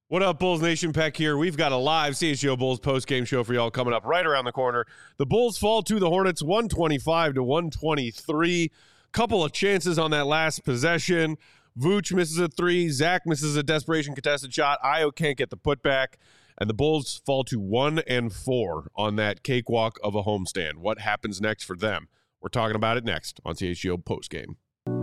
What up, Bulls Nation? Peck here. We've got a live CHGO Bulls post-game show for y'all coming up right around the corner. The Bulls fall to the Hornets 125-123. Couple of chances on that last possession. Vooch misses a three. Zach misses a desperation contested shot. Ayo can't get the putback. And the Bulls fall to 1-4 on that cakewalk of a homestand. What happens next for them? We're talking about it next on CHGO Postgame.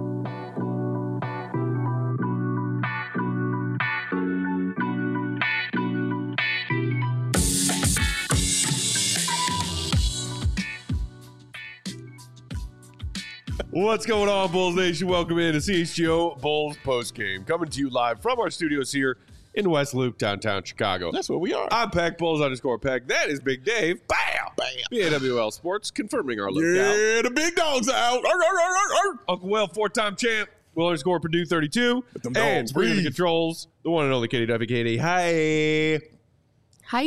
What's going on, Bulls Nation? Welcome in to CHGO Bulls Postgame. Coming to you live from our studios here in West Loop, downtown Chicago. That's where we are. I'm Peck, Bulls_Peck. That is Big Dave. Bam! Bam! BAWL Sports, confirming our lookout. Yeah, the big dog's out. Uncle Will, four-time champ. Will_Purdue 32. Them And dogs bringing the breathe. controls, the one and only Katie Duffy. Katie, hi. Hi.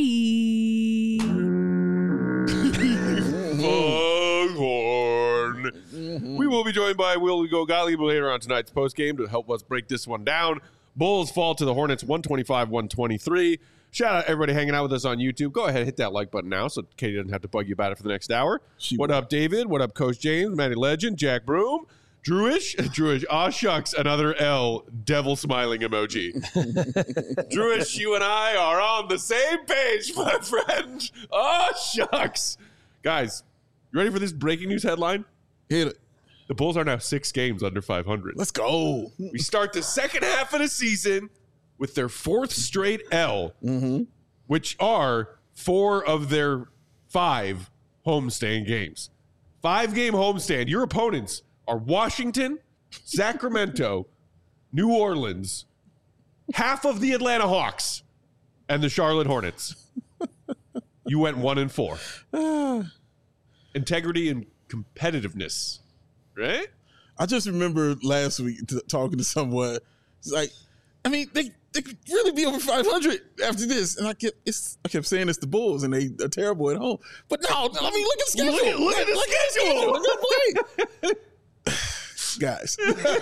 Foghorn. We will be joined by Will Gottlieb later on tonight's postgame to help us break this one down. Bulls fall to the Hornets 125-123. Shout out everybody hanging out with us on YouTube. Go ahead, hit that like button now so Katie doesn't have to bug you about it for the next hour. What up, David? What up, Coach James, Matty Legend, Jack Broom, Drewish, aw shucks, another L, devil smiling emoji. Drewish, you and I are on the same page, my friend. Aw shucks. Guys, you ready for this breaking news headline? Hit it. The Bulls are now 6 games under 500. Let's go. We start the second half of the season with their 4th straight L, which are 4 of their 5 homestand games. 5-game homestand. Your opponents are Washington, Sacramento, New Orleans, half of the Atlanta Hawks, and the Charlotte Hornets. You went 1-4. Integrity and competitiveness, right? I just remember last week talking to someone. It's like, I mean, they could really be over 500 after this. And I kept saying it's the Bulls, and they are terrible at home. But no, I mean, look at the schedule. Look at the schedule. Look at the play. Guys,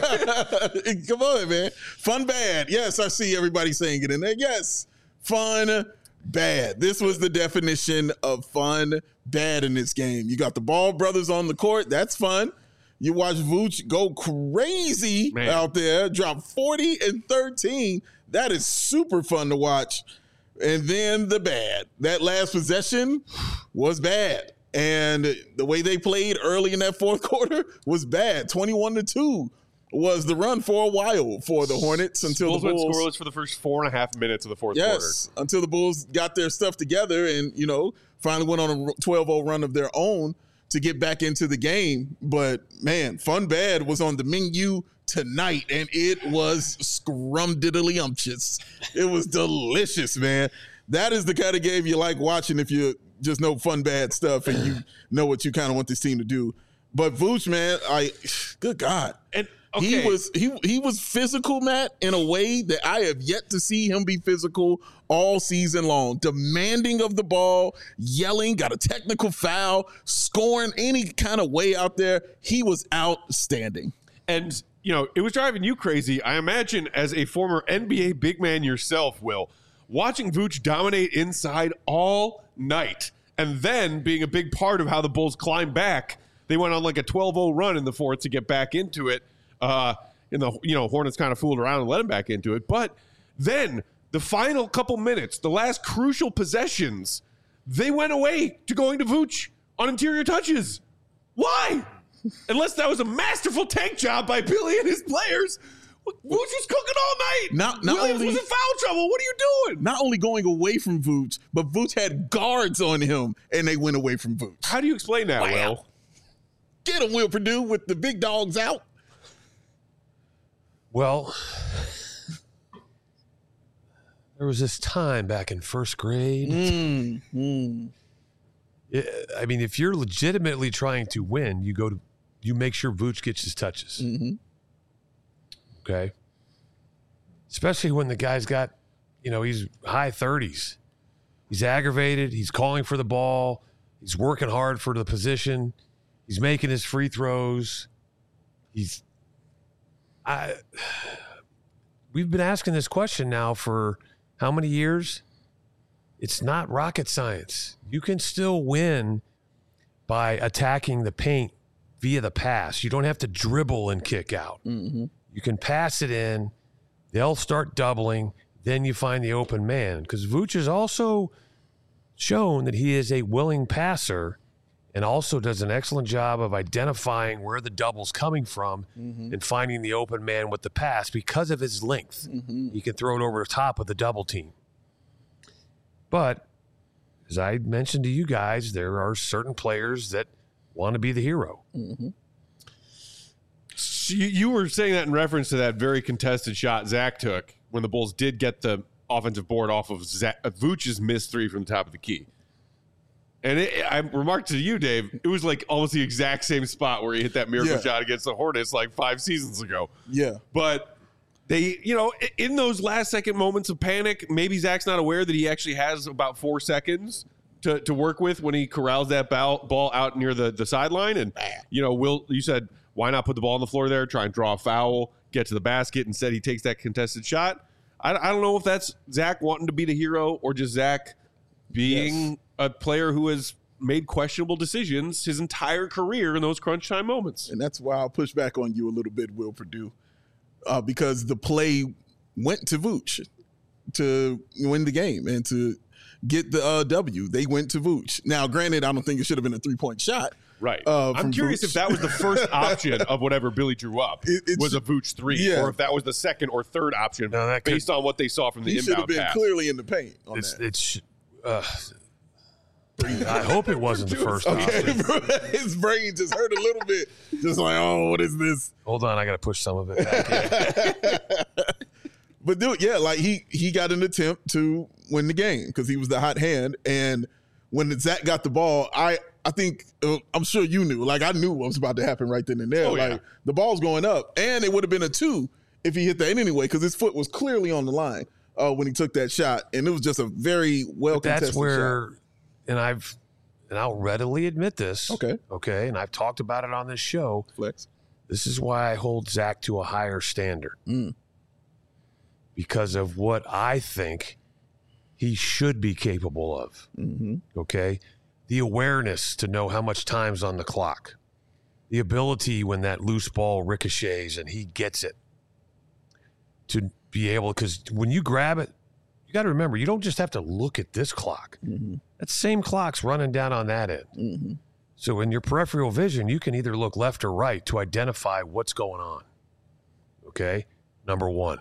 come on, man. Fun bad. Yes, I see everybody saying it in there. Yes, fun bad. This was the definition of fun bad in this game. You got the Ball brothers on the court. That's fun. You watch Vooch go crazy out there, drop 40 and 13. That is super fun to watch. And then the bad. That last possession was bad. And the way they played early in that fourth quarter was bad. 21-2 was the run for a while for the Hornets until the Bulls went scoreless for the first 4.5 minutes of the fourth quarter. Yes, until the Bulls got their stuff together and, finally went on a 12-0 run of their own to get back into the game. But, man, fun bad was on the menu tonight, and it was scrumdiddly-umptious. It was delicious, man. That is the kind of game you like watching if you just know fun bad stuff and you know what you kind of want this team to do. But Vooch, man, good God. And he was physical, Matt, in a way that I have yet to see him be physical all season long. Demanding of the ball, yelling, got a technical foul, scoring any kind of way out there. He was outstanding. And, it was driving you crazy. I imagine as a former NBA big man yourself, Will, watching Vooch dominate inside all night and then being a big part of how the Bulls climbed back. They went on like a 12-0 run in the fourth to get back into it. Hornets kind of fooled around and let him back into it. But then the final couple minutes, the last crucial possessions, they went away to going to Vooch on interior touches. Why? Unless that was a masterful tank job by Billy and his players. Vooch was cooking all night. Williams was in foul trouble. What are you doing? Not only going away from Vooch, but Vooch had guards on him, and they went away from Vooch. How do you explain that, Will? Get him, Will Purdue, with the big dogs out. Well, there was this time back in first grade. I mean, if you're legitimately trying to win, you make sure Vooch gets his touches. Okay. Especially when the guy's got, he's high 30s. He's aggravated. He's calling for the ball. He's working hard for the position. He's making his free throws. We've been asking this question now for how many years? It's not rocket science. You can still win by attacking the paint via the pass. You don't have to dribble and kick out. Mm-hmm. You can pass it in. They'll start doubling. Then you find the open man. Because Vooch has also shown that he is a willing passer and also does an excellent job of identifying where the double's coming from and finding the open man with the pass because of his length. He can throw it over the top of the double team. But as I mentioned to you guys, there are certain players that want to be the hero. So you were saying that in reference to that very contested shot Zach took when the Bulls did get the offensive board off of Vooch's missed three from the top of the key. And I remarked to you, Dave, it was like almost the exact same spot where he hit that miracle shot against the Hornets like 5 seasons ago. Yeah. But they, you know, in those last second moments of panic, maybe Zach's not aware that he actually has about 4 seconds to work with when he corrals that ball out near the sideline. And, you know, Will, you said, why not put the ball on the floor there, try and draw a foul, get to the basket. Instead, he takes that contested shot. I don't know if that's Zach wanting to be the hero or just Zach being a player who has made questionable decisions his entire career in those crunch time moments. And that's why I'll push back on you a little bit, Will Purdue, because the play went to Vooch to win the game and to get the W. They went to Vooch. Now, granted, I don't think it should have been a 3-point shot. Right. I'm curious if that was the first option of whatever Billy drew up was a Vooch 3, or if that was the second or third option based on what they saw from the inbound pass. He should have been clearly in the paint on that. I hope it wasn't the first option. His brain just hurt a little bit. Just like, oh, what is this? Hold on, I got to push some of it back in. But dude, yeah, like he got an attempt to win the game because he was the hot hand. And when Zach got the ball, I think I'm sure you knew. Like I knew what was about to happen right then and there. The ball's going up, and it would have been a 2 if he hit that anyway because his foot was clearly on the line when he took that shot, and it was just a very well contested that's where, shot. And I'll readily admit this. Okay, and I've talked about it on this show. Flex. This is why I hold Zach to a higher standard because of what I think he should be capable of. Okay. The awareness to know how much time's on the clock, the ability when that loose ball ricochets and he gets it to be able, because when you grab it, you got to remember, you don't just have to look at this clock. That same clock's running down on that end. So in your peripheral vision, you can either look left or right to identify what's going on. Okay. Number one.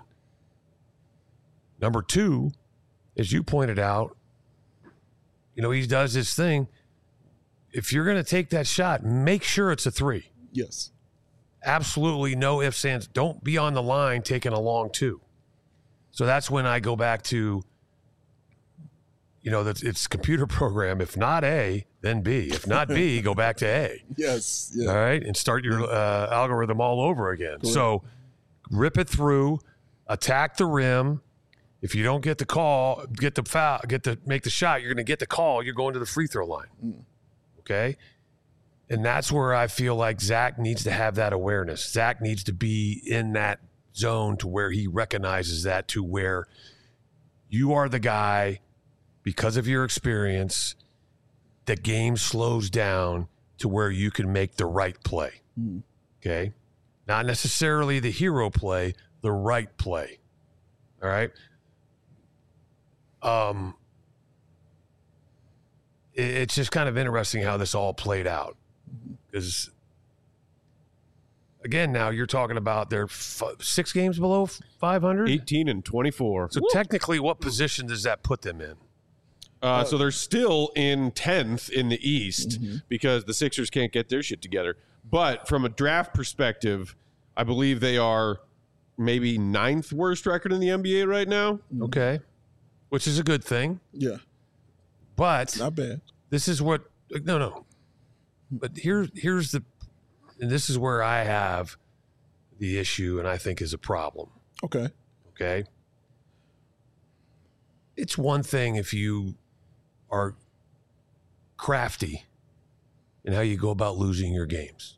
Number two, as you pointed out, you know, he does his thing. If you're going to take that shot, make sure it's a 3. Yes. Absolutely no ifs, ands. Don't be on the line taking a long 2. So that's when I go back to, you know, that it's computer program. If not A, then B. If not B, go back to A. Yes. Yeah. All right. And start your algorithm all over again. Cool. So rip it through, attack the rim. If you don't get the call, get the foul, make the shot, you're going to get the call. You're going to the free throw line. Okay. And that's where I feel like Zach needs to have that awareness. Zach needs to be in that zone to where he recognizes that, to where you are the guy, because of your experience, the game slows down to where you can make the right play. Okay. Not necessarily the hero play, the right play. All right. It's just kind of interesting how this all played out, because again, now you're talking about they're 6 games below 500, 18 and 24. So technically, what position does that put them in? So they're still in 10th in the East because the Sixers can't get their shit together. But from a draft perspective, I believe they are maybe 9th worst record in the NBA right now. Okay. Which is a good thing. Yeah. But not bad. This is what no. But here's the, and this is where I have the issue and I think is a problem. Okay. It's one thing if you are crafty in how you go about losing your games.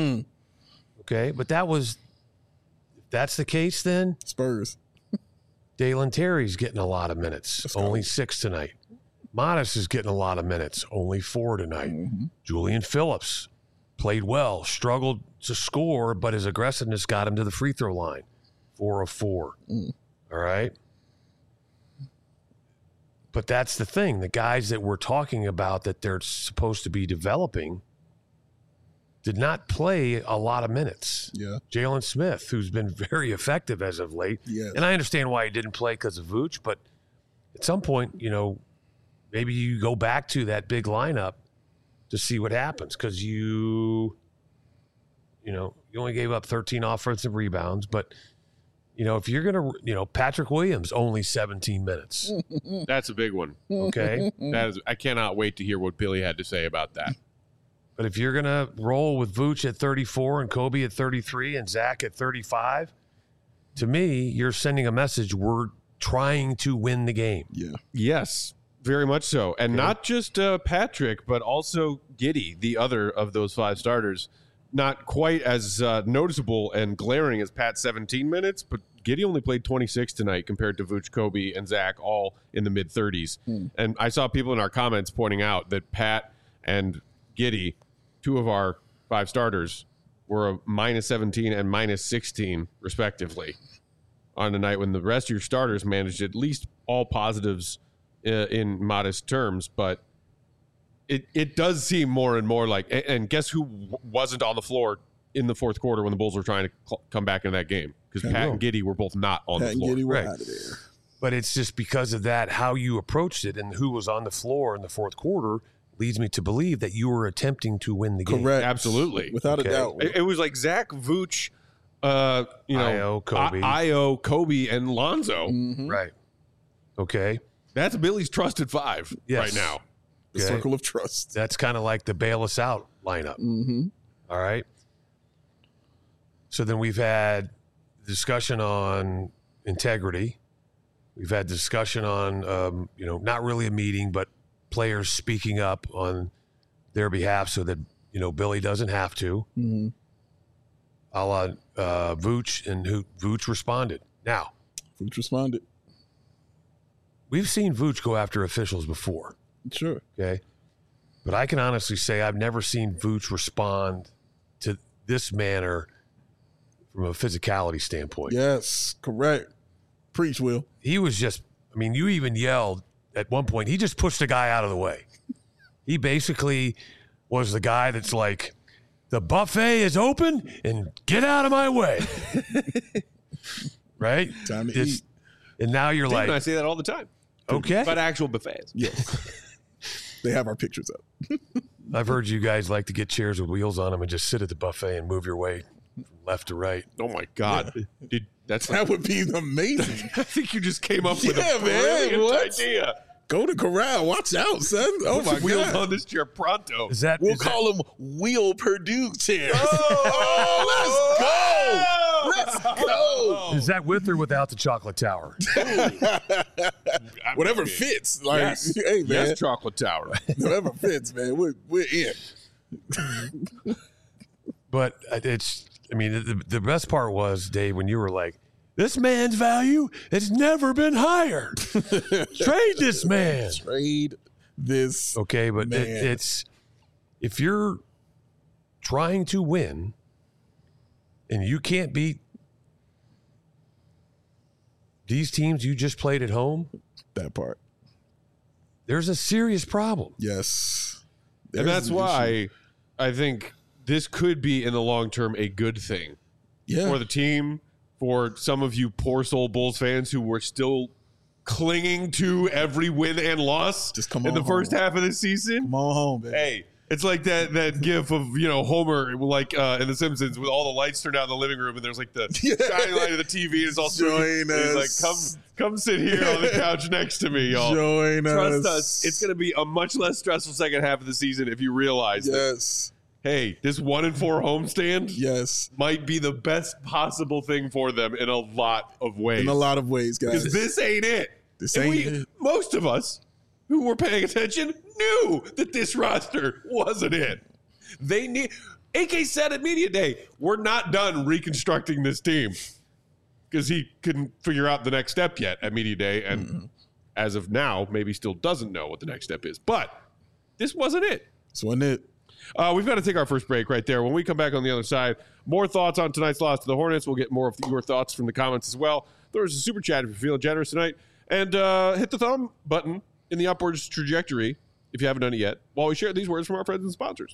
Okay. But if that's the case, then Spurs. Dalen Terry's getting a lot of minutes, only 6 tonight. Modest is getting a lot of minutes, only 4 tonight. Julian Phillips played well, struggled to score, but his aggressiveness got him to the free throw line. 4 of 4. All right. But that's the thing. The guys that we're talking about that they're supposed to be developing did not play a lot of minutes. Yeah. Jalen Smith, who's been very effective as of late. Yes. And I understand why he didn't play because of Vooch, but at some point, maybe you go back to that big lineup to see what happens because you only gave up 13 offensive rebounds, but if you're going to, Patrick Williams, only 17 minutes. That's a big one. Okay. I cannot wait to hear what Billy had to say about that. But if you're going to roll with Vooch at 34 and Kobe at 33 and Zach at 35, to me, you're sending a message. We're trying to win the game. Yeah. Yes, very much so. And not just Patrick, but also Giddey, the other of those 5 starters. Not quite as noticeable and glaring as Pat's 17 minutes, but Giddey only played 26 tonight compared to Vooch, Kobe, and Zach, all in the mid-30s. And I saw people in our comments pointing out that Pat and Giddey, 2 of our 5 starters, were a minus 17 and minus 16, respectively, on a night when the rest of your starters managed at least all positives in modest terms. But it does seem more and more like, and guess who wasn't on the floor in the fourth quarter when the Bulls were trying to come back into that game? Because Pat and Giddey were both not on the floor. Pat and Giddey were Right. out of there. But it's just because of that, how you approached it and who was on the floor in the fourth quarter leads me to believe that you were attempting to win the game. Correct. Absolutely. Without Okay. a doubt. It was like Zach, Vooch, Io, Kobe. Io, Kobe, and Lonzo. Right. Okay. That's Billy's trusted 5 Yes. right now. The Okay. circle of trust. That's kind of like the bail us out lineup. All right. So then we've had discussion on integrity. We've had discussion on, not really a meeting, but players speaking up on their behalf so that, Billy doesn't have to. A la Vooch, and who Vooch responded. Now, Vooch responded. we've seen Vooch go after officials before. Sure. Okay. But I can honestly say I've never seen Vooch respond to this manner from a physicality standpoint. Yes. Correct. Preach, Will. He was just, you even yelled at one point, he just pushed a guy out of the way. He basically was the guy that's like, the buffet is open and get out of my way. Right? Time to eat. And now you're Steve like, and I say that all the time. okay. But actual buffets. Yes. They have our pictures up. I've heard you guys like to get chairs with wheels on them and just sit at the buffet and move your way from left to right. Oh my God. That would be amazing. I think you just came up with Yeah, a man, brilliant what? idea. Go to corral. Watch out, son. Oh, my Wheels God. on this chair pronto. Is that We'll is call them Wheel Purdue chairs. Oh, Let's go. is that with or without the chocolate tower? Whatever fits. Like, Yes. hey, man. Yes, Chocolate Tower. Whatever fits, man. We're in. But the best part was, Dave, when you were like, this man's value has never been higher. Trade this man. Trade this. Okay, but man. it's if you're trying to win and you can't beat these teams you just played at home, That part. there's a serious problem. Yes. And There's that's an why issue. I think this could be, in the long term, a good thing Yeah. for the team, for some of you poor soul Bulls fans who were still clinging to every win and loss Just come in the on first home. half of the season. Come on home, baby. Hey, it's like that gif of, Homer, like in The Simpsons, with all the lights turned out in the living room, and there's like the shining light of the TV, and it's all Join He's us. like, come sit here on the couch next to me, y'all. Join Trust us. us. It's going to be a much less stressful second half of the season if you realize that, Yes. hey, this 1-4 homestand Yes. might be the best possible thing for them in a lot of ways. In a lot of ways, guys. Because this ain't it. This And ain't it. Most of us who were paying attention knew that this roster wasn't it. AK said at Media Day, we're not done reconstructing this team. because he couldn't figure out the next step yet at media day, and as of now, maybe still doesn't know what the next step is. But this wasn't it. This wasn't it. We've got to take our first break right there. When we come back on the other side, more thoughts on tonight's loss to the Hornets. We'll get more of your thoughts from the comments as well. There's a super chat if you're feeling generous tonight. And hit the thumb button in the upwards trajectory if you haven't done it yet, while we share these words from our friends and sponsors.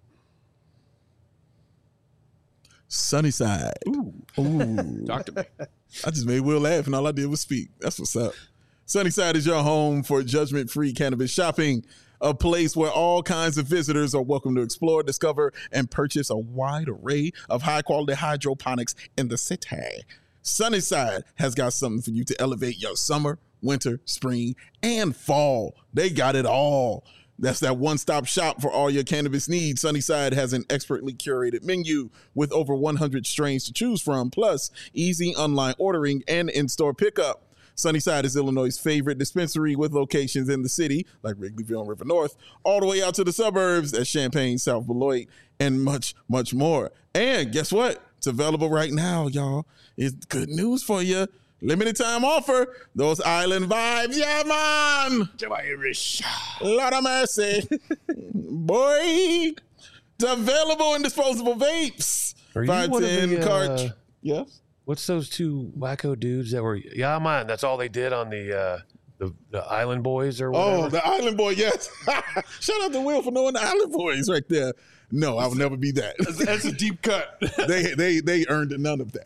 Sunnyside. Ooh. Talk to me. I just made Will laugh, and all I did was speak. That's what's up. Sunnyside is your home for judgment-free cannabis shopping, a place where all kinds of visitors are welcome to explore, discover, and purchase a wide array of high-quality hydroponics in the city. Sunnyside has got something for you to elevate your summer, winter, spring, and fall. They got it all. That's that one-stop shop for all your cannabis needs. Sunnyside has an expertly curated menu with over 100 strains to choose from, plus easy online ordering and in-store pickup. Sunnyside is Illinois' favorite dispensary with locations in the city, like Wrigleyville and River North, all the way out to the suburbs at Champaign, South Beloit, and much, much more. And guess what? It's available right now, y'all. It's good news for you. Limited time offer. Those island vibes. Yeah, man. Lord of mercy. Boy. It's available in disposable vapes. Are you one of 510 the, cartridge. Yes. What's those two wacko dudes that were? Yeah, man. That's all they did on the Island Boys or whatever. Oh, the Island Boy. Yes. Shout out to Will for knowing the Island Boys right there. No, I will never be that. That's a deep cut. They earned none of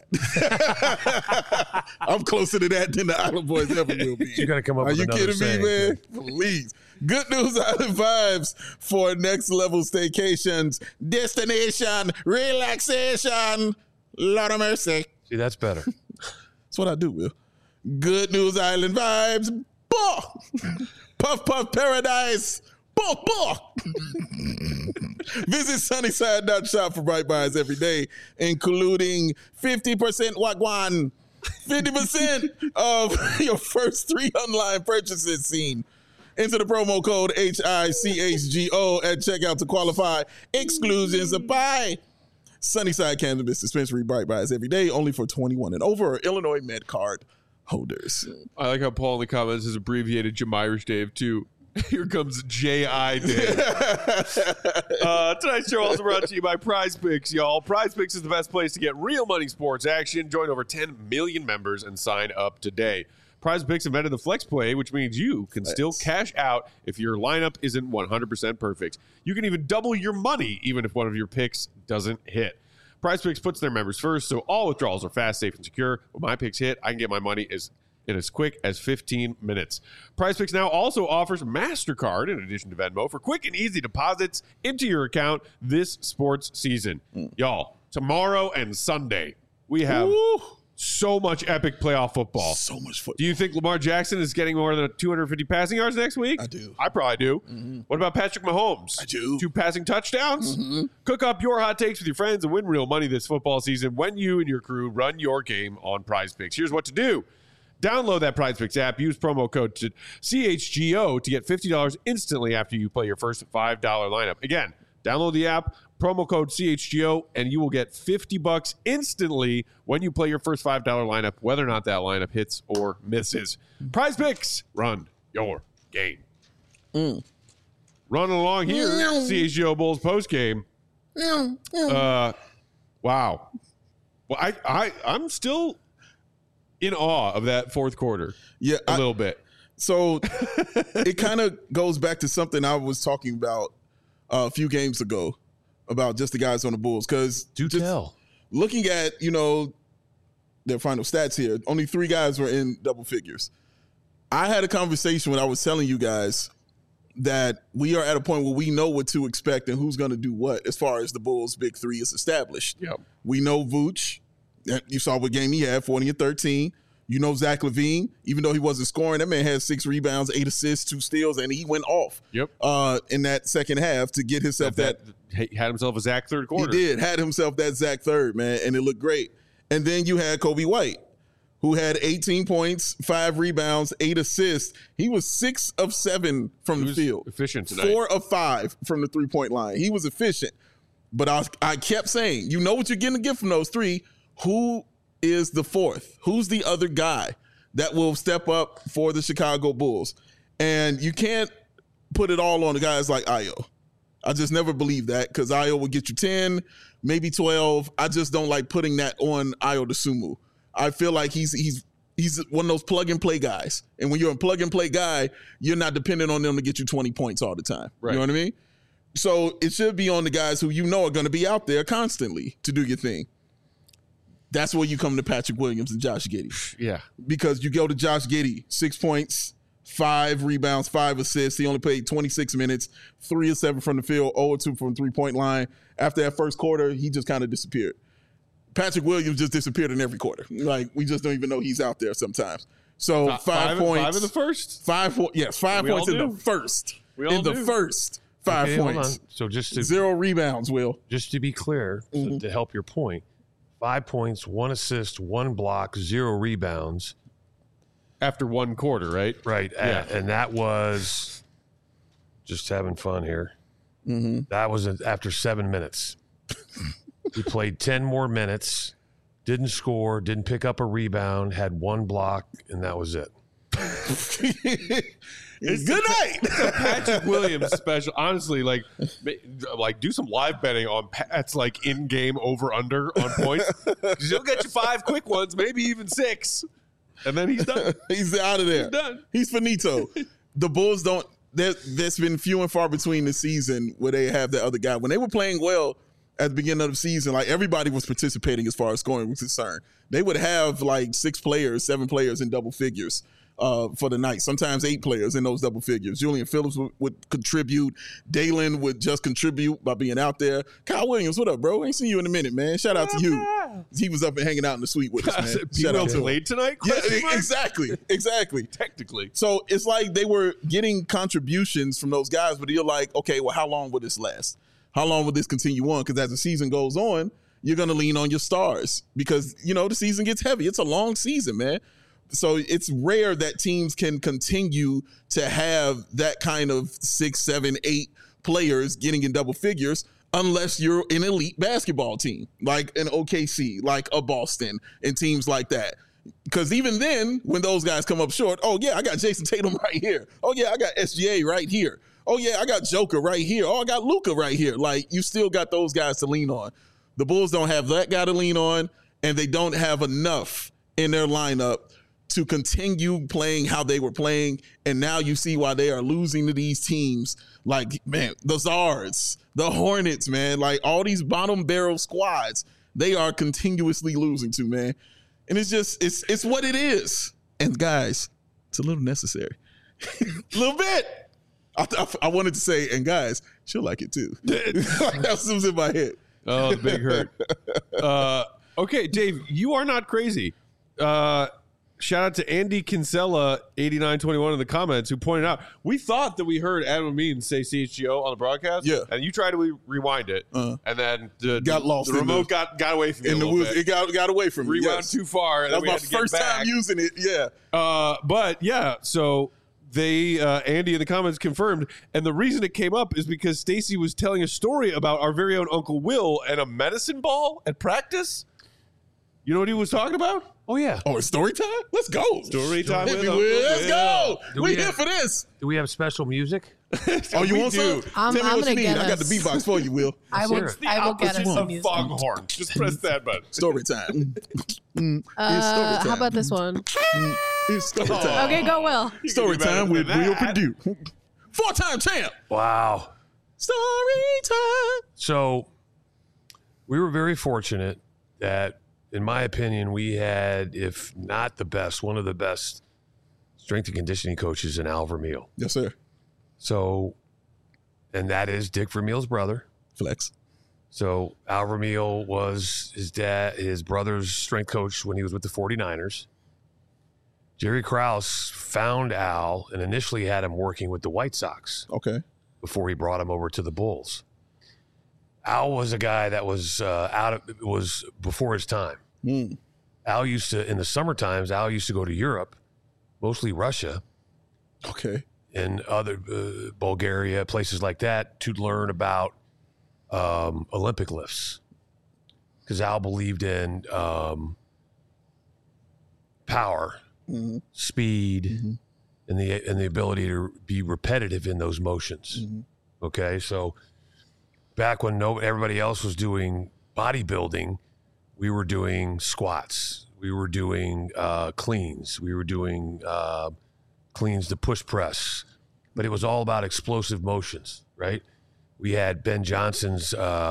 that. I'm closer to that than the Island Boys ever will be. You got to come up Are with you another kidding saying. me, man? Please. Good news, Island Vibes for next level staycations, destination, relaxation. Lord of mercy. See, that's better. That's what I do, Will. Good news, Island Vibes. Bah! Puff Puff Paradise. Bah, bah. Visit Sunnyside.shop for bright buys every day, including 50% wagwan, 50% of your first 3 online purchases seen. Enter the promo code HICHGO at checkout to qualify. Exclusions apply. Sunnyside Cannabis Dispensary, bright buys every day, only for 21 and over, Illinois Med Card holders. I like how Paul in the comments has abbreviated Jamirish Dave too. Here comes J.I. Dave. Tonight's show also brought to you by Prize Picks, y'all. Prize Picks is the best place to get real money sports action. Join over 10 million members and sign up today. Prize Picks invented the flex play, which means you can still cash out if your lineup isn't 100% perfect. You can even double your money even if one of your picks doesn't hit. Prize Picks puts their members first, so all withdrawals are fast, safe, and secure. When my picks hit, I can get my money in as quick as 15 minutes. Prize Picks now also offers MasterCard in addition to Venmo for quick and easy deposits into your account this sports season. Y'all, tomorrow and Sunday, we have so much epic playoff football. So much football. Do you think Lamar Jackson is getting more than 250 passing yards next week? I do. I probably do. What about Patrick Mahomes? I do. 2 passing touchdowns? Cook up your hot takes with your friends and win real money this football season when you and your crew run your game on Prize Picks. Here's what to do. Download that Prize Picks app. Use promo code CHGO to get $50 instantly after you play your first $5 lineup. Again, download the app, promo code CHGO, and you will get $50 instantly when you play your first $5 lineup, whether or not that lineup hits or misses. Prize Picks, run your game. Running along here, CHGO Bulls postgame. Wow. Well, I'm still in awe of that fourth quarter. Yeah, a little bit. So it kind of goes back to something I was talking about a few games ago about just the guys on the Bulls. Because looking at, their final stats here, only 3 guys were in double figures. I had a conversation when I was telling you guys that we are at a point where we know what to expect and who's going to do what as far as the Bulls' big 3 is established. Yep. We know Vooch. You saw what game he had, 40 and 13. You know Zach LaVine, even though he wasn't scoring, that man had 6 rebounds, 8 assists, 2 steals, and he went off in that second half to get himself he had himself a Zach third quarter. He had himself that Zach third, man, and it looked great. And then you had Kobe White, who had 18 points, 5 rebounds, 8 assists. He was 6 of 7 from the field. Efficient tonight. 4 of 5 from the three-point line. He was efficient. But I kept saying, you know what you're getting to get from those 3. Who is the fourth? Who's the other guy that will step up for the Chicago Bulls? And you can't put it all on the guys like Ayo. I just never believe that because Ayo will get you 10, maybe 12. I just don't like putting that on Ayo DeSumo. I feel like he's one of those plug-and-play guys. And when you're a plug-and-play guy, you're not dependent on them to get you 20 points all the time. Right. You know what I mean? So it should be on the guys who you know are going to be out there constantly to do your thing. That's where you come to Patrick Williams and Josh Giddey. Yeah. Because you go to Josh Giddey, 6 points, 5 rebounds, 5 assists. He only played 26 minutes, 3 of 7 from the field, 0 of 2 from the 3-point line. After that first quarter, he just kind of disappeared. Patrick Williams just disappeared in every quarter. Like, we just don't even know he's out there sometimes. So 5 points. 5 in the first? 5 points in the first. In the first 5 points. So just to, 0 rebounds, Will. Just to be clear, so to help your point, 5 points, 1 assist, 1 block, 0 rebounds. After 1 quarter, right? Right. Yeah. And that was just having fun here. Mm-hmm. That was after 7 minutes. He played 10 more minutes, didn't score, didn't pick up a rebound, had 1 block, and that was it. Good night. It's a Patrick Williams special. Honestly, like do some live betting on Pat's like in-game over/under on points. Because he'll get you 5 quick ones, maybe even 6, and then he's done. He's out of there. He's done. He's finito. The Bulls don't. There's been few and far between the season where they have that other guy. When they were playing well at the beginning of the season, like everybody was participating as far as scoring was concerned. They would have like 6 players, 7 players in double figures for the night. Sometimes 8 players in those double figures. Julian Phillips would contribute. Dalen would just contribute by being out there. Kyle Williams, what up, bro? Ain't seen you in a minute, man. Shout out to you. He was up and hanging out in the suite with us, man. Shout out to him. Played tonight? Yeah, exactly. Technically. So it's like they were getting contributions from those guys, but you're like, okay, well, how long will this last? How long will this continue on? Because as the season goes on, you're going to lean on your stars because, you know, the season gets heavy. It's a long season, man. So it's rare that teams can continue to have that kind of 6, 7, 8 players getting in double figures unless you're an elite basketball team, like an OKC, like a Boston, and teams like that. Because even then, when those guys come up short, oh, yeah, I got Jason Tatum right here. Oh, yeah, I got SGA right here. Oh, yeah, I got Joker right here. Oh, I got Luka right here. Like, you still got those guys to lean on. The Bulls don't have that guy to lean on, and they don't have enough in their lineup to continue playing how they were playing. And now you see why they are losing to these teams like, man, the Zards, the Hornets, man, like all these bottom barrel squads, they are continuously losing to, man. And it's just, it's what it is. And guys, it's a little necessary. A little bit. I wanted to say, and guys, she'll like it too. That's what was in my head. Oh, the big hurt. Okay, Dave, you are not crazy. Shout out to Andy Kinsella, 8921 in the comments, who pointed out, we thought that we heard Adam Amin say CHGO on the broadcast. Yeah. And you tried to rewind it. And then got lost. The remote got away from you. In the woods. It got away from me. Rewound too far. That was my first time using it. Yeah. But yeah, so they, Andy in the comments confirmed. And the reason it came up is because Stacey was telling a story about our very own Uncle Will and a medicine ball at practice. You know what he was talking about? Oh, yeah. Oh, it's story time? Let's go. Story time with Uncle Will. Let's go. We We're here for this. Do we have special music? Oh, you want some? I'm Tell me what gonna you need. get I got the us. beatbox for you, Will. I will get us some of music. foghorn. Just press that button. Story time. How about this one? It's story time. Okay, go Will. Story time with Will Purdue. 4-time champ. Wow. Story time. So we were very fortunate that, in my opinion, we had, if not the best, one of the best strength and conditioning coaches in Al Vermeil. Yes, sir. So, and that is Dick Vermeil's brother. Flex. So Al Vermeil was his brother's strength coach when he was with the 49ers. Jerry Krause found Al and initially had him working with the White Sox. Okay. Before he brought him over to the Bulls. Al was a guy that was was before his time. Al used to, in the summer times, Al used to go to Europe, mostly Russia. Okay. And other Bulgaria, places like that, to learn about Olympic lifts. Because Al believed in power, speed, and the ability to be repetitive in those motions. Okay, so back when everybody else was doing bodybuilding, we were doing squats, we were doing cleans, we were doing cleans to push press, but it was all about explosive motions, right? We had Ben Johnson's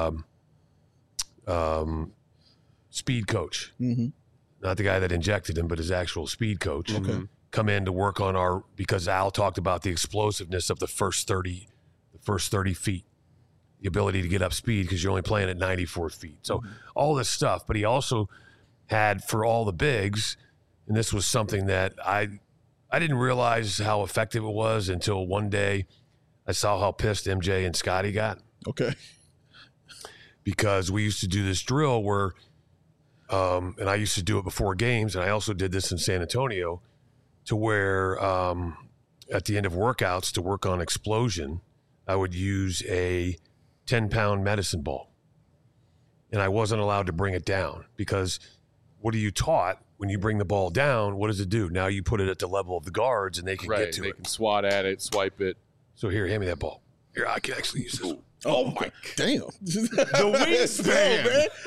speed coach, not the guy that injected him, but his actual speed coach, come in to work on because Al talked about the explosiveness of the first 30 feet, the ability to get up speed because you're only playing at 94 feet. So all this stuff, but he also had for all the bigs, and this was something that I didn't realize how effective it was until one day I saw how pissed MJ and Scotty got. Okay. Because we used to do this drill where, and I used to do it before games, and I also did this in San Antonio, to where at the end of workouts to work on explosion, I would use a 10-pound medicine ball. And I wasn't allowed to bring it down because what are you taught? When you bring the ball down, what does it do? Now you put it at the level of the guards and they can get to it. They can swat at it, swipe it. So here, hand me that ball. Here, I can actually use this one. Oh my damn! The wingspan,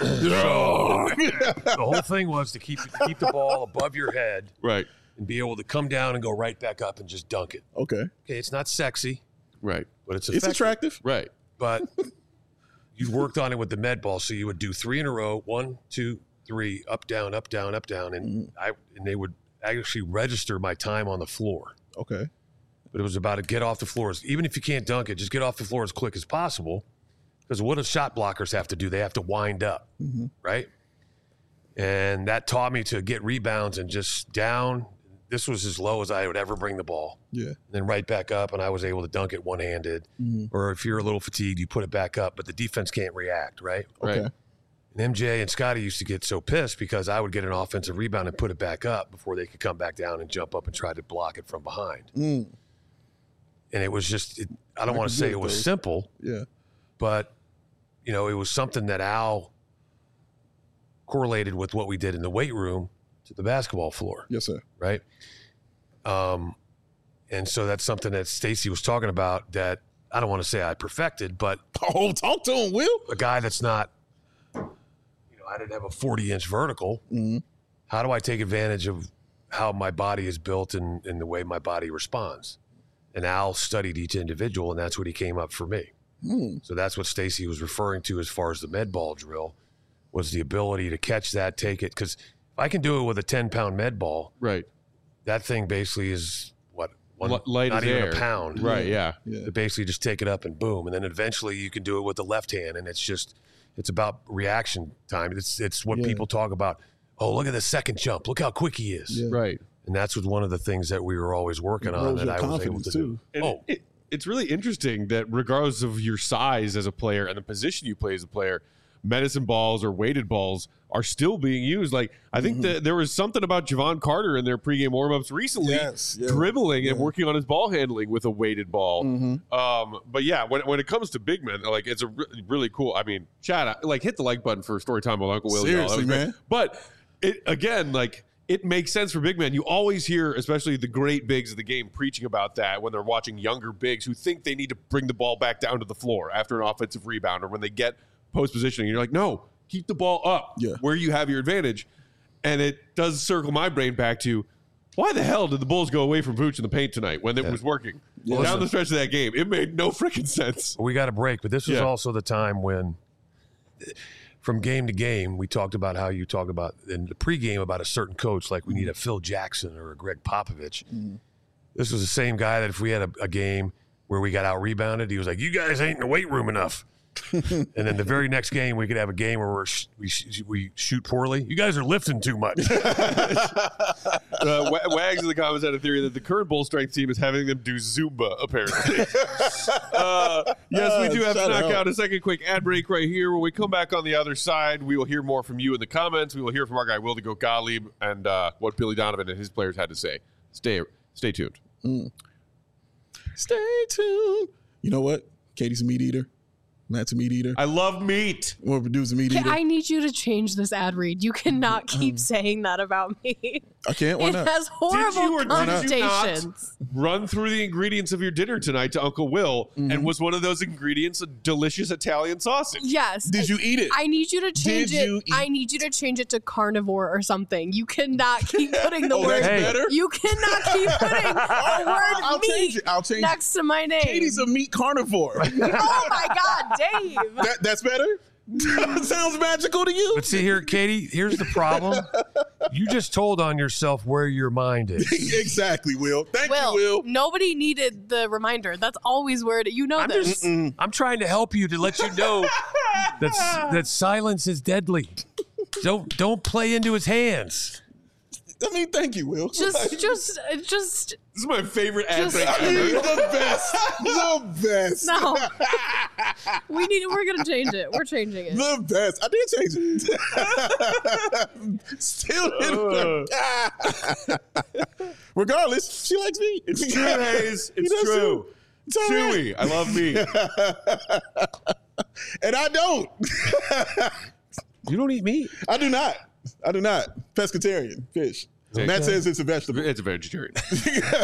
The whole thing was to keep the ball above your head, right, and be able to come down and go right back up and just dunk it. Okay. Okay, it's not sexy, right, but it's effective. It's attractive, right. But you worked on it with the med ball, so you would do 3 in a row, 1, 2, 3, up, down, up, down, up, down, and they would actually register my time on the floor. Okay. But it was about to get off the floor. Even if you can't dunk it, just get off the floor as quick as possible. Because what do shot blockers have to do? They have to wind up, right? And that taught me to get rebounds and just down. This was as low as I would ever bring the ball. Yeah. And then right back up, and I was able to dunk it one-handed. Or if you're a little fatigued, you put it back up, but the defense can't react, right? Okay. Right. And MJ and Scotty used to get so pissed because I would get an offensive rebound and put it back up before they could come back down and jump up and try to block it from behind. And it was just, I don't want to say it was simple. Yeah. But, it was something that Al correlated with what we did in the weight room to the basketball floor. Yes, sir. Right? And so that's something that Stacey was talking about that I don't want to say I perfected, but. Oh, talk to him, Will. A guy that's not, I didn't have a 40-inch vertical. How do I take advantage of how my body is built and the way my body responds? And Al studied each individual, and that's what he came up for me. So that's what Stacey was referring to as far as the med ball drill, was the ability to catch that, take it. Because if I can do it with a 10-pound med ball, Right. that thing basically is, Light not as even air. a pound. Right, yeah. To basically just take it up and boom. And then eventually you can do it with the left hand, and it's about reaction time. It's what people talk about. Oh, look at the second jump. Look how quick he is. Yeah. Right. And that's one of the things that we were always working on that I was able to do. And it's really interesting that regardless of your size as a player and the position you play as a player, medicine balls or weighted balls are still being used. Like, I think that there was something about Javon Carter in their pregame warmups recently, dribbling and working on his ball handling with a weighted ball. But yeah, when it comes to big men, like, it's a really cool. I mean, Chad, hit the like button for Storytime with Uncle Will. Seriously, man. But it makes sense for big men. You always hear, especially the great bigs of the game, preaching about that when they're watching younger bigs who think they need to bring the ball back down to the floor after an offensive rebound or when they get post positioning. You're like, no, keep the ball up where you have your advantage. And it does circle my brain back to, why the hell did the Bulls go away from Vooch in the paint tonight when it was working? Down the stretch of that game, it made no freaking sense. We got a break, but this was also the time when, from game to game, we talked about how you talk about in the pregame about a certain coach, like we need a Phil Jackson or a Greg Popovich. This was the same guy that if we had a game where we got out rebounded, he was like, "You guys ain't in the weight room enough." And then the very next game, we could have a game where we shoot poorly. You guys are lifting too much. Wags in the comments had a theory that the current Bull strength team is having them do Zumba, apparently. Yes, we do have to knock out a second quick ad break right here. When we come back on the other side, we will hear more from you in the comments. We will hear from our guy, Will the Goat Gottlieb, and what Billy Donovan and his players had to say. Stay tuned. Stay tuned. You know what? Katie's a meat eater. Matt's a meat eater. I love meat. Or producer meat eater. I need you to change this ad read. You cannot keep saying that about me. I can't. Why It not? has horrible Did you not connotations. run through the ingredients of your dinner tonight to Uncle Will, and was one of those ingredients a delicious Italian sausage? Yes. Did you eat it? I need you to change Did you it. eat- I need you to change it to carnivore or something. You cannot keep putting the Oh, word. that's Hey. better? You cannot keep putting the word I'll meat change it. I'll change it. next to my name. Katie's a meat carnivore. Oh my God, Dave. That's better? Sounds magical to you? But see here, Katie, here's the problem. You just told on yourself where your mind is. Exactly, Will. Thank Will, you, Will. nobody needed the reminder. That's always where you know I'm this. just I'm trying to help you to let you know that silence is deadly. Don't play into his hands. I mean, thank you, Will. Just This is my favorite ad Just- break He's ever. the best. The best. no. We're gonna change it. We're changing it. The best. I did change it. Still didn't. Regardless, she likes me. It's true, Hayes. He It's does true. too. It's all right. Chewy. I love meat. And I don't. You don't eat meat. I do not. Pescatarian. Fish. Okay. Matt says it's a vegetable. It's a vegetarian. He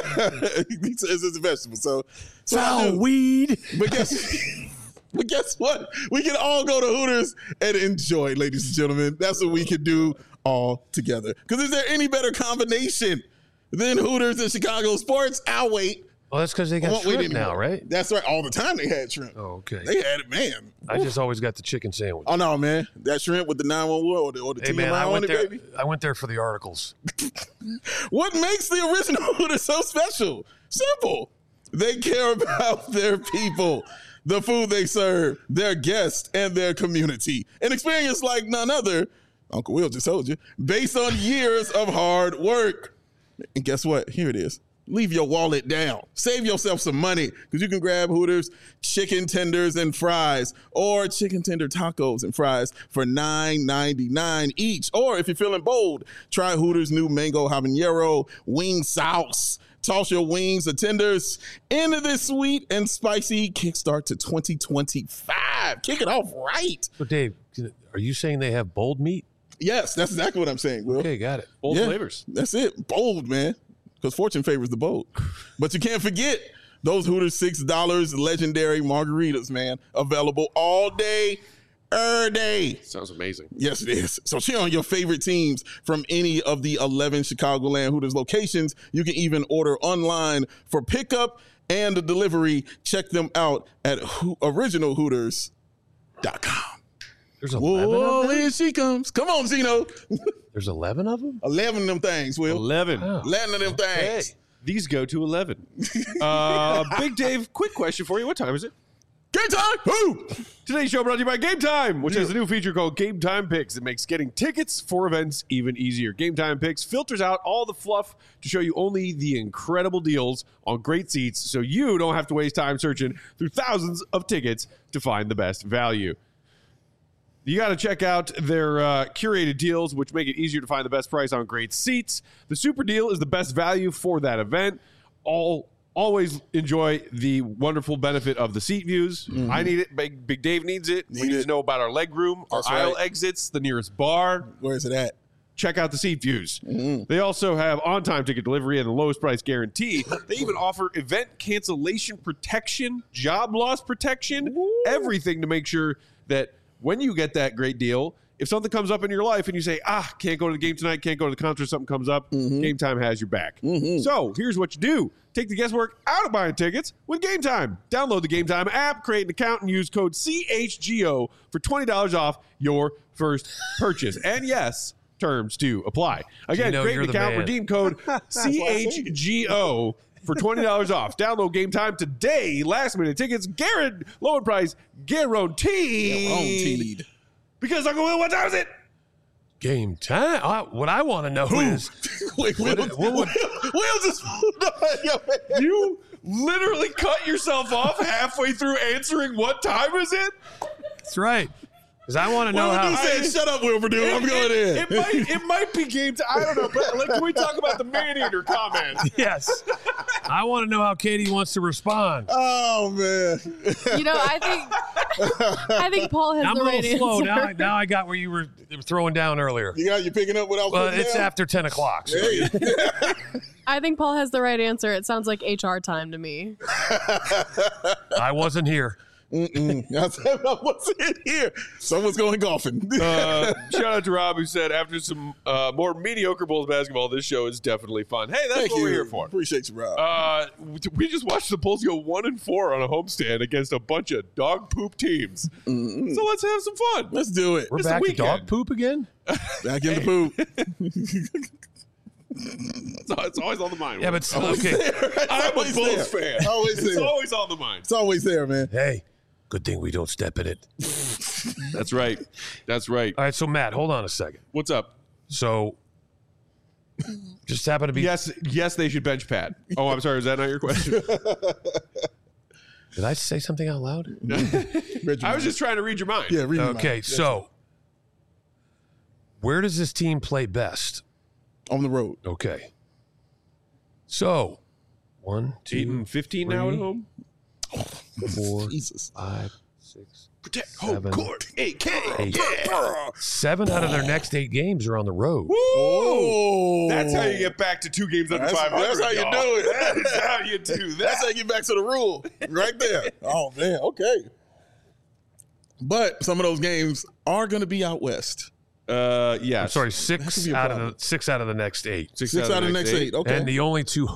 says it's a vegetable. So I Foul do. weed. But guess what? We can all go to Hooters and enjoy, ladies and gentlemen. That's what we can do all together. Because is there any better combination than Hooters and Chicago sports? I'll wait. Well, that's because they got Won't wait shrimp now, anymore. right? That's right. All the time they had shrimp. Oh, okay. They had it, man. I just always got the chicken sandwich. Oh no, man. That shrimp with the 911 or the Hey TMI man, I on went it, there. baby. I went there for the articles. What makes the original Hooters so special? Simple. They care about their people, the food they serve, their guests, and their community. An experience like none other, Uncle Will just told you, based on years of hard work. And guess what? Here it is. Leave your wallet down. Save yourself some money because you can grab Hooters chicken tenders and fries or chicken tender tacos and fries for $9.99 each. Or if you're feeling bold, try Hooters' new mango habanero wing sauce. Toss your wings or tenders into this sweet and spicy kickstart to 2025. Kick it off right. So Dave, are you saying they have bold meat? Yes, that's exactly what I'm saying, Will. Okay, got it. Bold Yeah, flavors. That's it. Bold, man. Because fortune favors the bold. But you can't forget those Hooters $6 legendary margaritas, man. Available all day, every day. Sounds amazing. Yes, it is. So cheer on your favorite teams from any of the 11 Chicagoland Hooters locations. You can even order online for pickup and delivery. Check them out at originalhooters.com. There's 11 Whoa, of them? here she comes. Come on, Zeno. There's 11 of them? 11 of them things, Will. 11. Oh. 11 of them things. These go to 11. Big Dave, quick question for you. What time is it? Game time. Woo! Today's show brought to you by Game Time, which has a new feature called Game Time Picks. It makes getting tickets for events even easier. Game Time Picks filters out all the fluff to show you only the incredible deals on great seats so you don't have to waste time searching through thousands of tickets to find the best value. You got to check out their curated deals, which make it easier to find the best price on great seats. The super deal is the best value for that event. Always enjoy the wonderful benefit of the seat views. I need it. Big Dave needs it. We need to know about our leg room, our That's aisle right. exits, the nearest bar. Where is it at? Check out the seat views. They also have on-time ticket delivery and the lowest price guarantee. They even offer event cancellation protection, job loss protection, everything to make sure that when you get that great deal, if something comes up in your life and you say, can't go to the game tonight, can't go to the concert, something comes up, Game Time has your back. So here's what you do. Take the guesswork out of buying tickets with Game Time. Download the Game Time app, create an account, and use code CHGO for $20 off your first purchase. And yes, terms do apply. Again, Gino, create you're an the account, man. redeem code CHGO for $20 off. Download Game Time today. Last minute tickets, lower price, guaranteed. Because Uncle Will, what time is it? Game time? What I want to know is Wait, Will just You literally cut yourself off halfway through answering what time is it? that's right. Because I want to know Will how. said, shut up, Will Purdue. I'm going in. It might be game time. I don't know. But can we talk about the man-eater comment? Yes. I want to know how Katie wants to respond. Oh, man. You know, I think I think Paul has I'm the a right little slow. answer. Now I got where you were throwing down earlier. You picking up what I was Well, putting it's down? after 10 o'clock. So Hey. I think Paul has the right answer. It sounds like HR time to me. I wasn't here. I wasn't here. Someone's going golfing. Shout out to Rob, who said, after some more mediocre Bulls basketball, this show is definitely fun. Hey, that's Thank what you. we're here for. Appreciate you, Rob. We just watched the Bulls go 1-4 on a homestand against a bunch of dog poop teams. So let's have some fun. Let's do it. We're It's back the to dog weekend. poop again? Back in the poop. It's always on the mind. Yeah, but okay. I'm a always Bulls there. fan. Always It's there. always on the mind. It's always there, man. Hey, good thing we don't step in it. That's right. That's right. All right, so Matt, hold on a second. What's up? So, just happen to be. Yes, they should bench Pat. Oh, I'm sorry. Is that not your question? Did I say something out loud? I was just trying to read your mind. Yeah, read your Okay, mind. so where does this team play best? On the road. Okay. So, 1, 8 2, and 15 now at three. home. 4, Jesus. 5, 6, Protect home 7, court. 8K. 8. 7 out of their next 8 games are on the road. Oh. That's how you get back to 2 games under That's- 500. that's how you y'all. do it. That's how you do that. That's how you get back to the rule. Right there. Oh, man. Okay. But some of those games are going to be out west. Yeah. I'm sorry, That could 6 be a out problem. of the 6 out of the next 8. 6 out of the next 8. Okay. And the only 2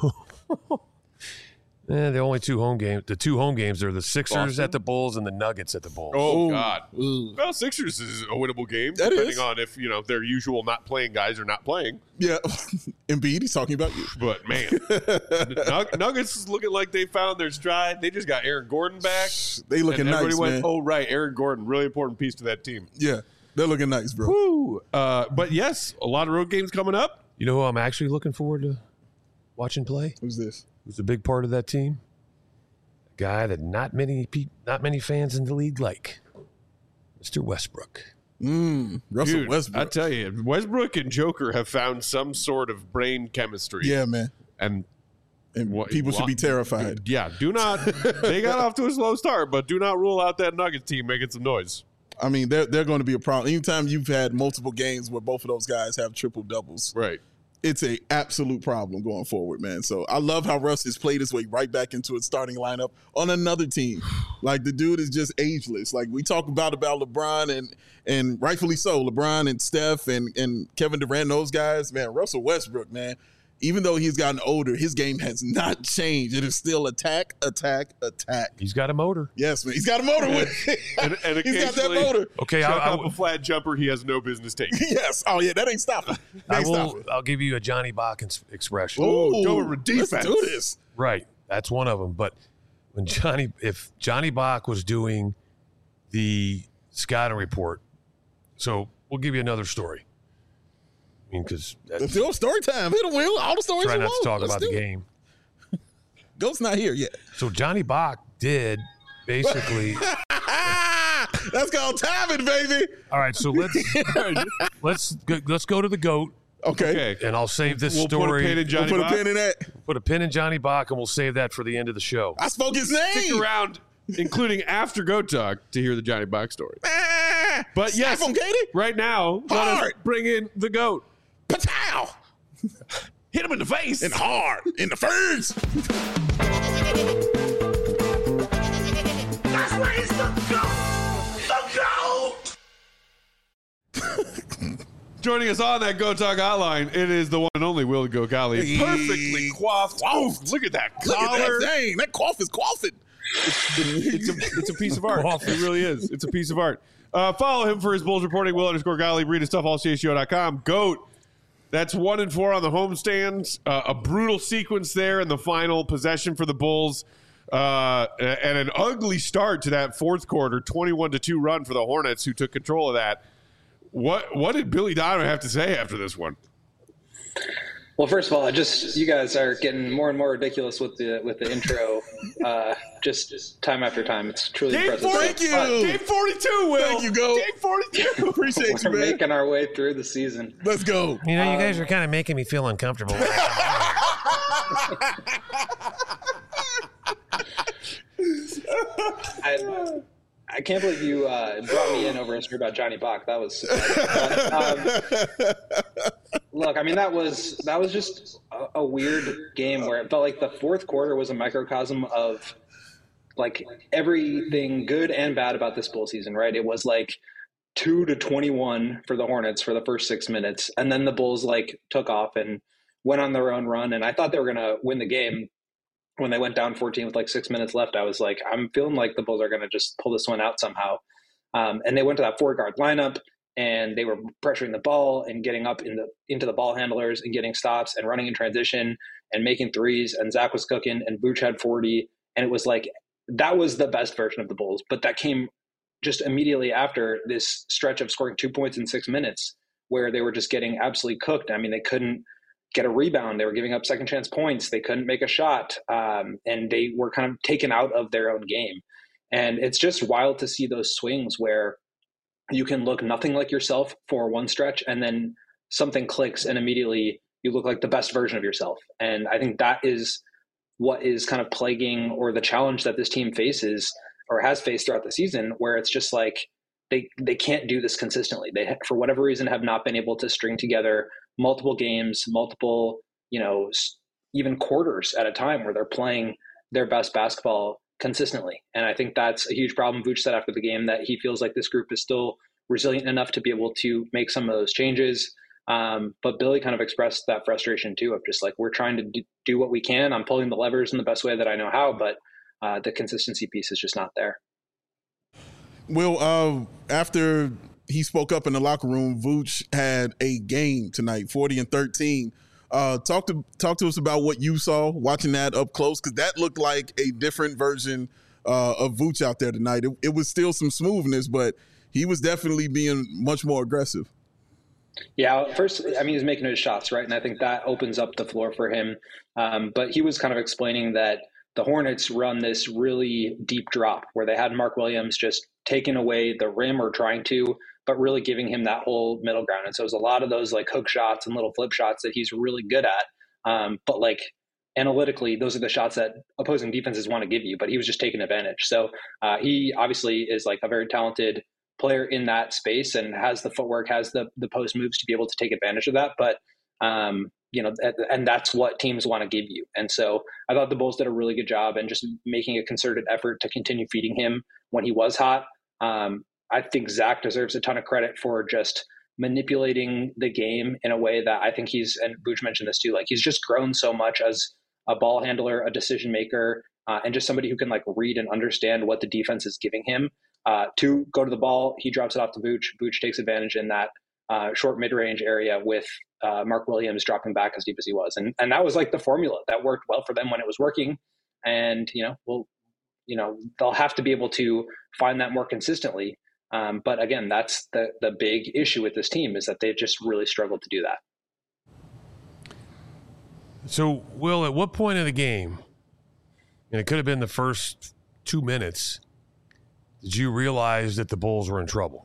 the only 2 home games, the 2 home games are the Sixers Boston? at the Bulls and the Nuggets at the Bulls. Oh, Ooh. God. Ooh. Well, Sixers is a winnable game, That depending is. on if, their usual not playing guys are not playing. Yeah. Embiid, he's talking about you. But, man, Nuggets is looking like they found their stride. They just got Aaron Gordon back. They looking and everybody nice, went, man. oh, right, Aaron Gordon, really important piece to that team. Yeah. They're looking nice, bro. Woo. But, yes, a lot of road games coming up. You know who I'm actually looking forward to watching play? Who's this? Who's a big part of that team? A guy that not many fans in the league like. Mr. Westbrook. Russell Dude, Westbrook. I tell you, Westbrook and Joker have found some sort of brain chemistry. Yeah, man. And And people should be terrified. yeah, do not. They got off to a slow start, but do not rule out that Nuggets team making some noise. I mean, they're going to be a problem. Anytime you've had multiple games where both of those guys have triple doubles, Right. it's a absolute problem going forward, man. So I love how Russ has played his way right back into his starting lineup on another team. Like, the dude is just ageless. Like, we talk about LeBron and rightfully so, LeBron and Steph and Kevin Durant, those guys, man. Russell Westbrook, man. Even though he's gotten older, his game has not changed. It is still attack, attack, attack. He's got a motor. Yes, man. He's got a motor with it. And He's got that occasionally motor. Okay, chuck I up a flat jumper he has no business taking. Yes. Oh, yeah. That ain't stopping. That ain't stopping. I'll give you a Johnny Bach expression. Ooh, go with defense. Let's do this. Right, that's one of them. But if Johnny Bach was doing the scouting report, so we'll give you another story. I mean, because Let's do story time. Hit him, Will. All the stories try you not to want. talk Let's about do the it. game. Goat's not here yet. So Johnny Bach did basically. That's called timing, baby. All right, so let's go to the goat, Okay. Okay. and I'll save this We'll story. put a pin in Johnny We'll put Bach. a pin in that. Put a pin in Johnny Bach, and we'll save that for the end of the show. I spoke his Stick name. around, including after Go Talk, to hear the Johnny Bach story. Ah, But slap yes, him, Katie. right now, let us Hard. bring in the GOAT. Patow. Hit him in the face. And hard. In the face. That's where he's the GOAT! The GOAT! Joining us on that Go Talk hotline, it is the one and only Will Gogali. Perfectly coiffed. Oof, look at that Look at collar. that thing. That cough is coughing. It's a piece of art. Coffee. It really is. It's a piece of art. Follow him for his Bulls reporting, Will_Gottlieb. Read his stuff, allcsgo.com. GOAT. That's 1-4 on the homestands. A brutal sequence there in the final possession for the Bulls. And an ugly start to that fourth quarter, 21-2 run for the Hornets, who took control of that. What did Billy Donovan have to say after this one? Well, first of all, you guys are getting more and more ridiculous with the intro, just time after time. It's truly Game impressive. 40, Thank you. Game 42, Will. Thank you, Go. Game 42. Appreciate you, We're man. making our way through the season. Let's go. You know, you guys are kind of making me feel uncomfortable. I can't believe you brought me in over a story about Johnny Bach. That was look. I mean, that was just a weird game where it felt like the fourth quarter was a microcosm of like everything good and bad about this Bull season. Right? It was like 2-21 for the Hornets for the first 6 minutes, and then the Bulls like took off and went on their own run. And I thought they were going to win the game. When they went down 14 with like 6 minutes left, I was like, I'm feeling like the Bulls are going to just pull this one out somehow. And they went to that 4-guard lineup, and they were pressuring the ball and getting up into the ball handlers and getting stops and running in transition and making threes. And Zach was cooking, and Vooch had 40. And it was like, that was the best version of the Bulls. But that came just immediately after this stretch of scoring 2 points in 6 minutes where they were just getting absolutely cooked. I mean, they couldn't get a rebound. They were giving up second chance points. They couldn't make a shot. And they were kind of taken out of their own game. And it's just wild to see those swings where you can look nothing like yourself for one stretch, and then something clicks and immediately you look like the best version of yourself. And I think that is what is kind of plaguing, or the challenge that this team faces or has faced throughout the season, where it's just like they can't do this consistently. They, for whatever reason, have not been able to string together multiple games, multiple, even quarters at a time where they're playing their best basketball consistently. And I think that's a huge problem. Vooch said after the game that he feels like this group is still resilient enough to be able to make some of those changes. But Billy kind of expressed that frustration too, of just like, we're trying to do what we can. I'm pulling the levers in the best way that I know how, but the consistency piece is just not there. Well, after he spoke up in the locker room, Vooch had a game tonight, 40-13. Talk to us about what you saw watching that up close, because that looked like a different version of Vooch out there tonight. It was still some smoothness, but he was definitely being much more aggressive. Yeah, first, I mean, he's making his shots, right? And I think that opens up the floor for him. But he was kind of explaining that the Hornets run this really deep drop where they had Mark Williams just taking away the rim or trying to, but really giving him that whole middle ground. And so it was a lot of those like hook shots and little flip shots that he's really good at. But like analytically, those are the shots that opposing defenses want to give you, but he was just taking advantage. So he obviously is like a very talented player in that space and has the footwork, has the post moves to be able to take advantage of that. But, and that's what teams want to give you. And so I thought the Bulls did a really good job and just making a concerted effort to continue feeding him when he was hot. I think Zach deserves a ton of credit for just manipulating the game in a way that I think and Vooch mentioned this too, like he's just grown so much as a ball handler, a decision maker, and just somebody who can like read and understand what the defense is giving him. To go to the ball, he drops it off to Vooch. Vooch takes advantage in that short mid-range area with Mark Williams dropping back as deep as he was. And that was like the formula that worked well for them when it was working. And, they'll have to be able to find that more consistently. But again, that's the big issue with this team, is that they've just really struggled to do that. So, Will, at what point in the game, and it could have been the first 2 minutes, did you realize that the Bulls were in trouble?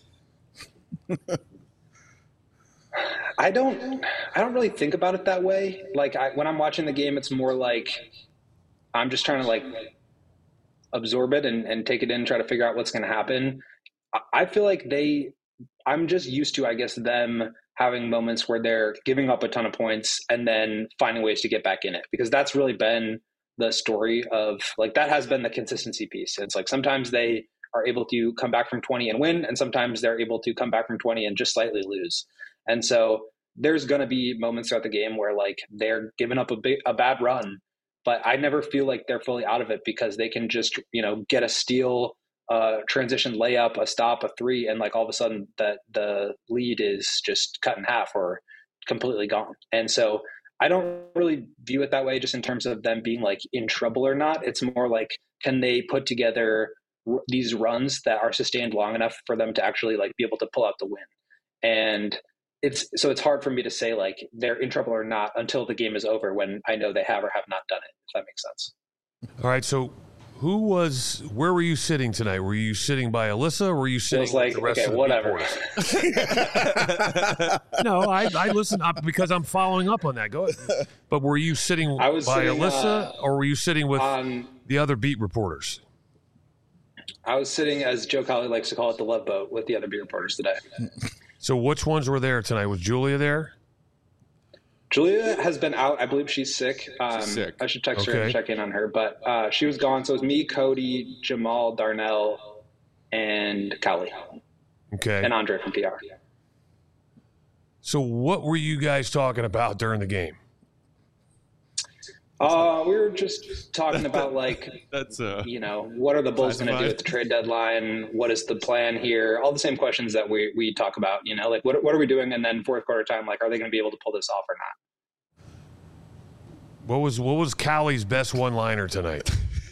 I don't really think about it that way. Like when I'm watching the game, it's more like I'm just trying to like absorb it and take it in, try to figure out what's going to happen. I feel like I'm just used to, I guess, them having moments where they're giving up a ton of points and then finding ways to get back in it, because that's really been the story of like, that has been the consistency piece. It's like sometimes they are able to come back from 20 and win, and sometimes they're able to come back from 20 and just slightly lose. And so there's going to be moments throughout the game where like they're giving up a bad run, but I never feel like they're fully out of it, because they can just, get a steal, transition layup, a stop, a three, and like all of a sudden that the lead is just cut in half or completely gone. And so I don't really view it that way, just in terms of them being like in trouble or not. It's more like, can they put together these runs that are sustained long enough for them to actually like be able to pull out the win? And it's hard for me to say like they're in trouble or not until the game is over, when I know they have or have not done it, if that makes sense. All right. So where were you sitting tonight? Were you sitting by Alyssa, or were you sitting with the rest of the whatever. No, I listen up because I'm following up on that. Go ahead. But were you sitting by Alyssa, or were you sitting with the other beat reporters? I was sitting, as Joe Colley likes to call it, the love boat with the other beat reporters today. So which ones were there tonight? Was Julia there? Julia has been out. I believe she's sick. Sick. I should text her Okay. and check in on her. But she was gone. So it was me, Cody, Jamal, Darnell, and Callie, Okay. and Andre from PR. So what were you guys talking about during the game? We were just talking about, like, That's what are the Bulls going to do Classified. at the trade deadline? What is the plan here? All the same questions that we talk about, like what are we doing? And then fourth quarter time, like, are they going to be able to pull this off or not? What was Callie's best one-liner tonight?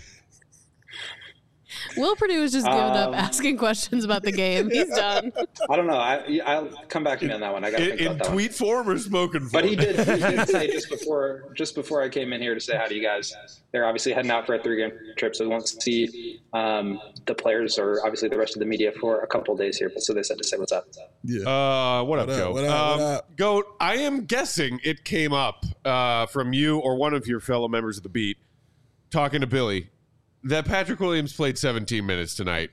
Will Purdue has just given up asking questions about the game. He's done. I don't know. I'll come back to me on that one. I got to think in about that one. tweet form or spoken form? But he did say just before I came in here to say hi to you guys. They're obviously heading out for a 3-game trip, so we won't see the players or obviously the rest of the media for a couple of days here. But so they said to say what's up. Yeah. What up, Goat? what up? Goat, I am guessing it came up from you or one of your fellow members of the beat talking to Billy that Patrick Williams played 17 minutes tonight.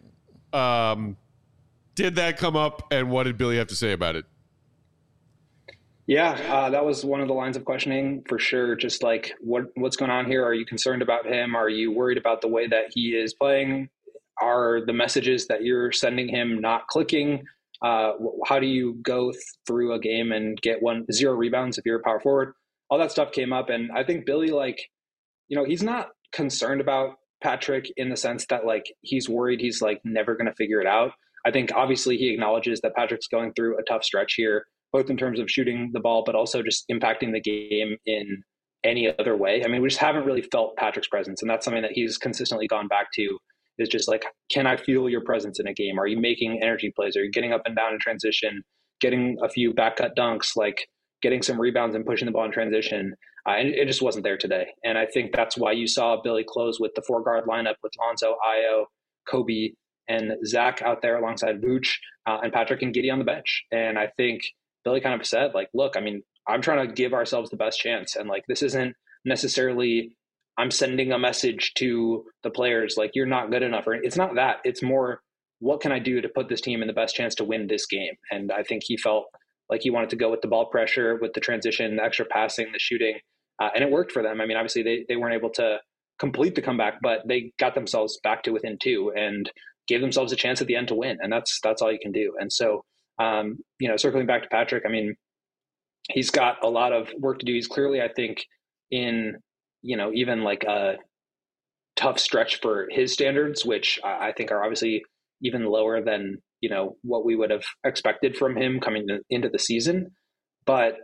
Did that come up, and what did Billy have to say about it? Yeah, that was one of the lines of questioning for sure. Just like, what's going on here? Are you concerned about him? Are you worried about the way that he is playing? Are the messages that you're sending him not clicking? How do you go through a game and get 0 rebounds if you're a power forward? All that stuff came up, and I think Billy, he's not concerned about Patrick in the sense that, like, he's worried he's, like, never going to figure it out. I think obviously he acknowledges that Patrick's going through a tough stretch here, both in terms of shooting the ball, but also just impacting the game in any other way. I mean, we just haven't really felt Patrick's presence, and that's something that he's consistently gone back to, is just like, can I feel your presence in a game? Are you making energy plays? Are you getting up and down in transition, getting a few back cut dunks, like getting some rebounds and pushing the ball in transition? And it just wasn't there today. And I think that's why you saw Billy close with the 4-guard lineup with Lonzo, Ayo, Kobe, and Zach out there alongside Vooch, and Patrick and Giddey on the bench. And I think Billy kind of said, like, look, I mean, I'm trying to give ourselves the best chance. And, like, this isn't necessarily I'm sending a message to the players, like, you're not good enough. Or it's not that. It's more, what can I do to put this team in the best chance to win this game? And I think he felt like he wanted to go with the ball pressure, with the transition, the extra passing, the shooting. And it worked for them. I mean, obviously they weren't able to complete the comeback, but they got themselves back to within 2 and gave themselves a chance at the end to win. And that's all you can do. And so, circling back to Patrick, I mean, he's got a lot of work to do. He's clearly, I think, in, even like a tough stretch for his standards, which I think are obviously even lower than, what we would have expected from him coming into the season. But,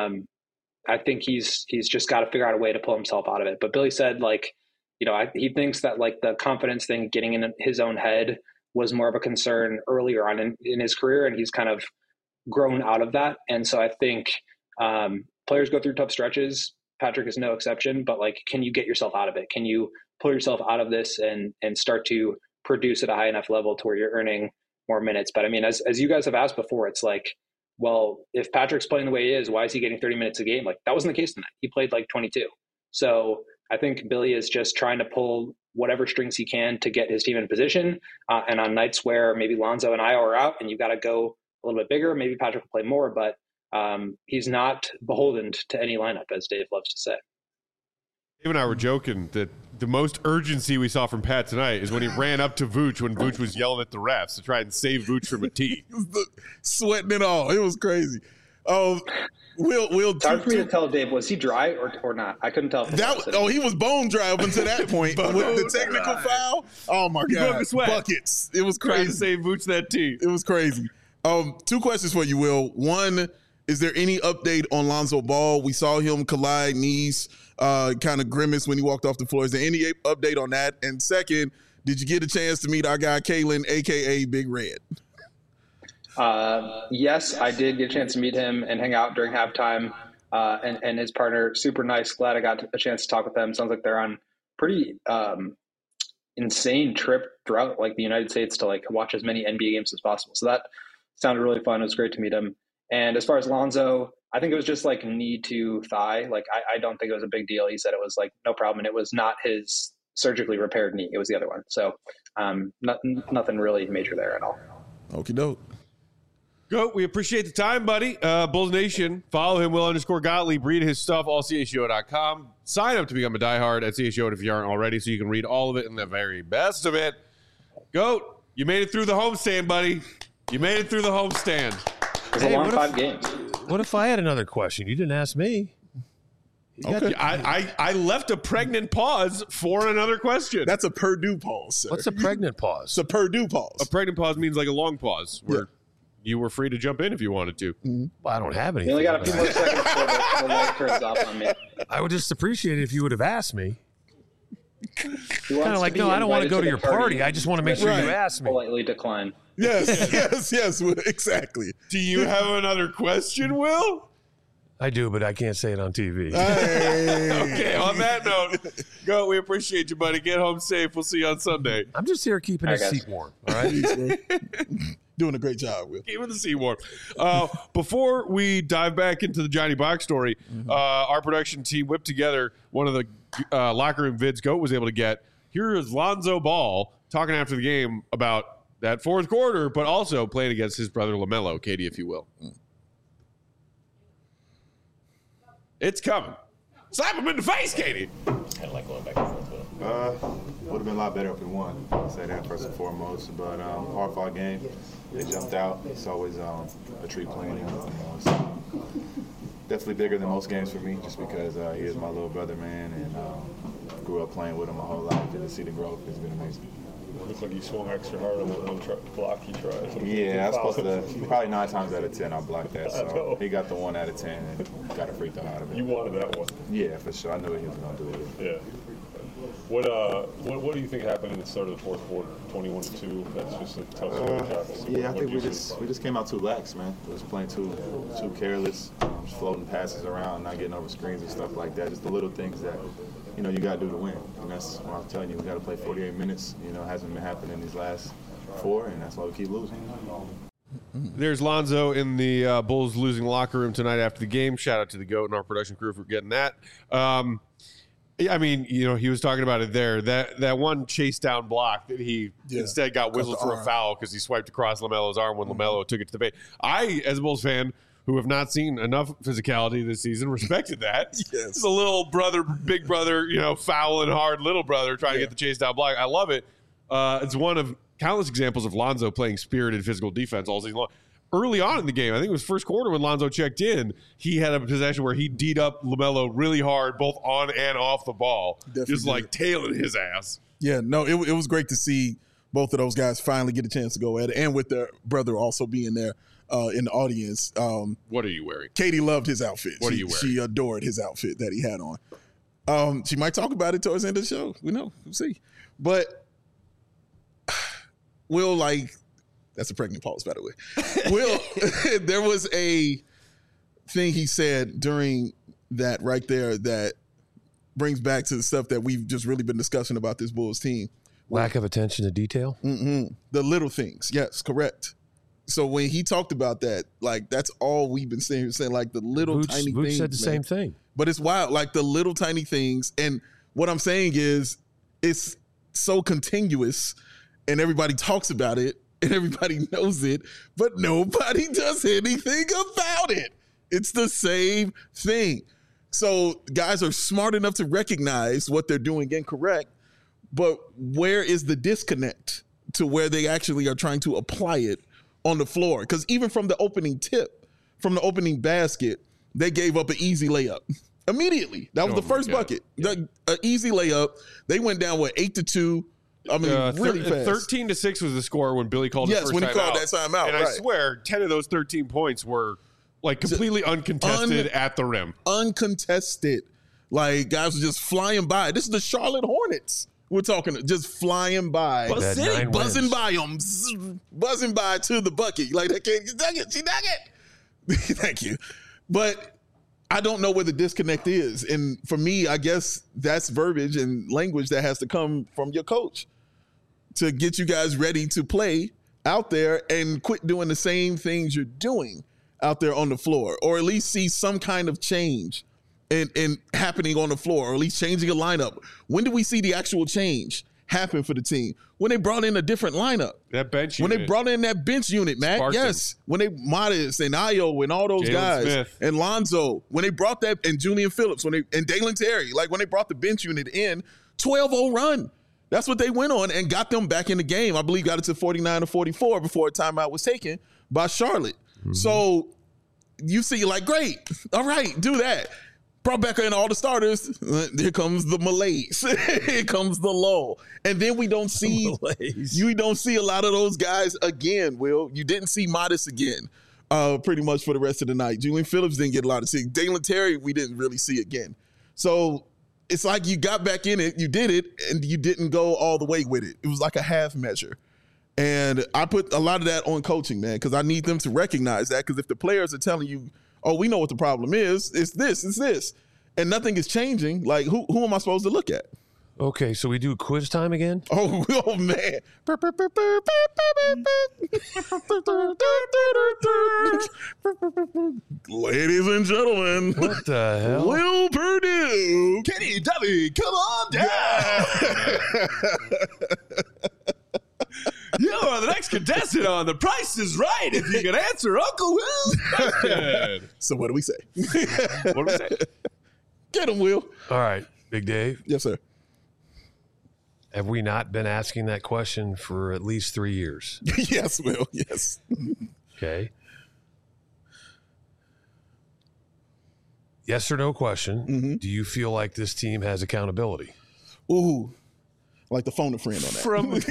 I think he's just got to figure out a way to pull himself out of it. But Billy said, like, he thinks that, like, the confidence thing, getting in his own head, was more of a concern earlier on in his career, and he's kind of grown out of that. And so I think players go through tough stretches. Patrick is no exception. But, like, can you get yourself out of it? Can you pull yourself out of this and start to produce at a high enough level to where you're earning more minutes? But I mean, as you guys have asked before, it's like, well, if Patrick's playing the way he is, why is he getting 30 minutes a game? Like, that wasn't the case tonight. He played like 22. So I think Billy is just trying to pull whatever strings he can to get his team in position. And on nights where maybe Lonzo and Ayo are out and you've got to go a little bit bigger, maybe Patrick will play more, but he's not beholden to any lineup, as Dave loves to say. Dave and I were joking that the most urgency we saw from Pat tonight is when he ran up to Vooch when Vooch was yelling at the refs to try and save Vooch from a tee. Sweating it all. It was crazy. Will It's hard for me to tell, Dave, was he dry or not? I couldn't tell. He was bone dry up until that point. But with the technical foul, oh my He broke God, a sweat. buckets. It was Trying to crazy. save Vooch that tee. It was crazy. 2 questions for you, Will. One, is there any update on Lonzo Ball? We saw him collide knees, kind of grimace when he walked off the floor. Is there any update on that? And second, did you get a chance to meet our guy Kalen, a.k.a. Big Red? Yes, I did get a chance to meet him and hang out during halftime. And his partner, super nice. Glad I got a chance to talk with them. Sounds like they're on pretty insane trip throughout like the United States to like watch as many NBA games as possible. So that sounded really fun. It was great to meet him. And as far as Lonzo, I think it was just like knee to thigh. Like I don't think it was a big deal. He said it was like no problem, and it was not his surgically repaired knee. It was the other one. So nothing really major there at all. Okie doke. Goat, we appreciate the time, buddy. Bulls Nation, follow him, Will_Gottlieb. Read his stuff, allchgo.com. Sign up to become a diehard at CHGO if you aren't already, so you can read all of it and the very best of it. Goat, you made it through the homestand, buddy. You made it through the homestand. It was a long 5 games. What if I had another question? You didn't ask me. Okay. I left a pregnant pause for another question. That's a Purdue pause, sir. What's a pregnant It's pause? a Purdue pause. A pregnant pause means like a long pause where you were free to jump in if you wanted to. Well, I don't have You anything. only got a few more seconds before the light turns off on me. I would just appreciate it if you would have asked me. Kind of like, no, I don't want to go to your party. I just want to make sure you ask me. Politely decline. Yes, exactly. Do you have another question, Will? I do, but I can't say it on TV. Okay, on that note, Goat, we appreciate you, buddy. Get home safe. We'll see you on Sunday. I'm just here keeping his seat warm. All right. Doing a great job, Will. Keeping the seat warm. Before we dive back into the Johnny Box story, our production team whipped together one of the locker room vids Goat was able to get. Here is Lonzo Ball talking after the game about that fourth quarter, but also playing against his brother LaMelo. Katie, if you will. It's coming. Slap him in the face, Katie. Kind of like going back and forth with him. Would have been a lot better if we won. I'll say that first and foremost. But hard fought game. They jumped out. It's always a treat playing him. It's definitely bigger than most games for me, just because he is my little brother, man, and grew up playing with him my whole life. And to see the growth has been amazing. It looks like you swung extra hard on that one block he tried. Yeah, I was supposed to. Probably 9 times out of 10, I blocked that. So he got the 1 out of 10 and got a free throw out of it. You wanted that one. Yeah, for sure. I knew he was going to do it. Yeah. What do you think happened in the start of the fourth quarter? 21-2. That's just a tough shot. Yeah, I think we just came out too lax, man. We was playing too careless, just floating passes around, not getting over screens and stuff like that. Just the little things that you got to do to win. And that's what I'm telling you. We got to play 48 minutes. It hasn't been happening these last 4, and that's why we keep losing. There's Lonzo in the Bulls losing locker room tonight after the game. Shout out to the GOAT and our production crew for getting that. I mean, he was talking about it there. That one chase down block that he instead got whistled for a foul because he swiped across LaMelo's arm when LaMelo took it to the paint. I, as a Bulls fan, who have not seen enough physicality this season, respected that. Yes. It's a little brother, big brother, fouling hard little brother trying to get the chase down block. I love it. It's one of countless examples of Lonzo playing spirited physical defense all season long. Early on in the game, I think it was first quarter when Lonzo checked in, he had a possession where he D'd up LaMelo really hard, both on and off the ball, just like tailing his ass. Yeah, no, it was great to see both of those guys finally get a chance to go at it, and with their brother also being there in the audience. What are you wearing? Katie loved his outfit. What are you wearing? She adored his outfit that he had on. She might talk about it towards the end of the show. We know. We'll see. But Will, that's a pregnant pause, by the way. Will, there was a thing he said during that right there that brings back to the stuff that we've just really been discussing about this Bulls team. Lack of attention to detail? The little things. Yes, correct. So when he talked about that, that's all we've been saying, the little tiny things. Vooch said the same thing. But it's wild, the little tiny things. And what I'm saying is it's so continuous and everybody talks about it and everybody knows it, but nobody does anything about it. It's the same thing. So guys are smart enough to recognize what they're doing incorrect, but where is the disconnect to where they actually are trying to apply it on the floor? Because even from the opening tip, from the opening basket, they gave up an easy layup immediately. That was the first bucket. An easy layup. They went down 8-2. I mean, really fast. 13-6 was the score when Billy called the first when he called timeout. that timeout. And I swear, 10 of those 13 points were completely uncontested at the rim. Uncontested. Guys were just flying by. This is the Charlotte Hornets. We're talking just flying by. Buzzing by them. Buzzing by to the bucket. That kid, she dug it. Thank you. But I don't know where the disconnect is. And for me, I guess that's verbiage and language that has to come from your coach to get you guys ready to play out there and quit doing the same things you're doing out there on the floor, or at least see some kind of change and happening on the floor, or at least changing a lineup? When do we see the actual change happen for the team? When they brought in a different lineup. That bench When unit. they brought in that bench unit, Matt. Sparked Yes. When they Modest and Ayo and all those Jalen guys. Smith. And Lonzo. When they brought that, and Julian Phillips, and Dalen Terry, like when they brought the bench unit in, 12-0 run. That's what they went on and got them back in the game. I believe got it to 49-44 before a timeout was taken by Charlotte. So you see, like, great. All right, do that. Brought back in all the starters. Here comes the malaise. Here comes the lull. And then we don't see you don't see a lot of those guys again, Will. You didn't see Modest again, pretty much for the rest of the night. Julian Phillips didn't get a lot of see. Dalen Terry, we didn't really see again. So it's like you got back in it, you did it, and you didn't go all the way with it. It was like a half measure. And I put a lot of that on coaching, man, because I need them to recognize that. Because if the players are telling you, oh, we know what the problem is, it's this, and nothing is changing, like, who am I supposed to look at? Okay, so we do quiz time again? Oh man. Ladies and gentlemen, What the hell? Will Purdue. Kenny Dovey, come on down. You are the next contestant on The Price is Right if you can answer Uncle Will's question. So what do we say? What do we say? Get him, Will. All right, Big Dave. Yes, sir. Have we not been asking that question for at least 3 years? Yes, Will. Yes. Okay. Yes or no question. Do you feel like this team has accountability? Ooh. Like the phone a friend on that. From whom?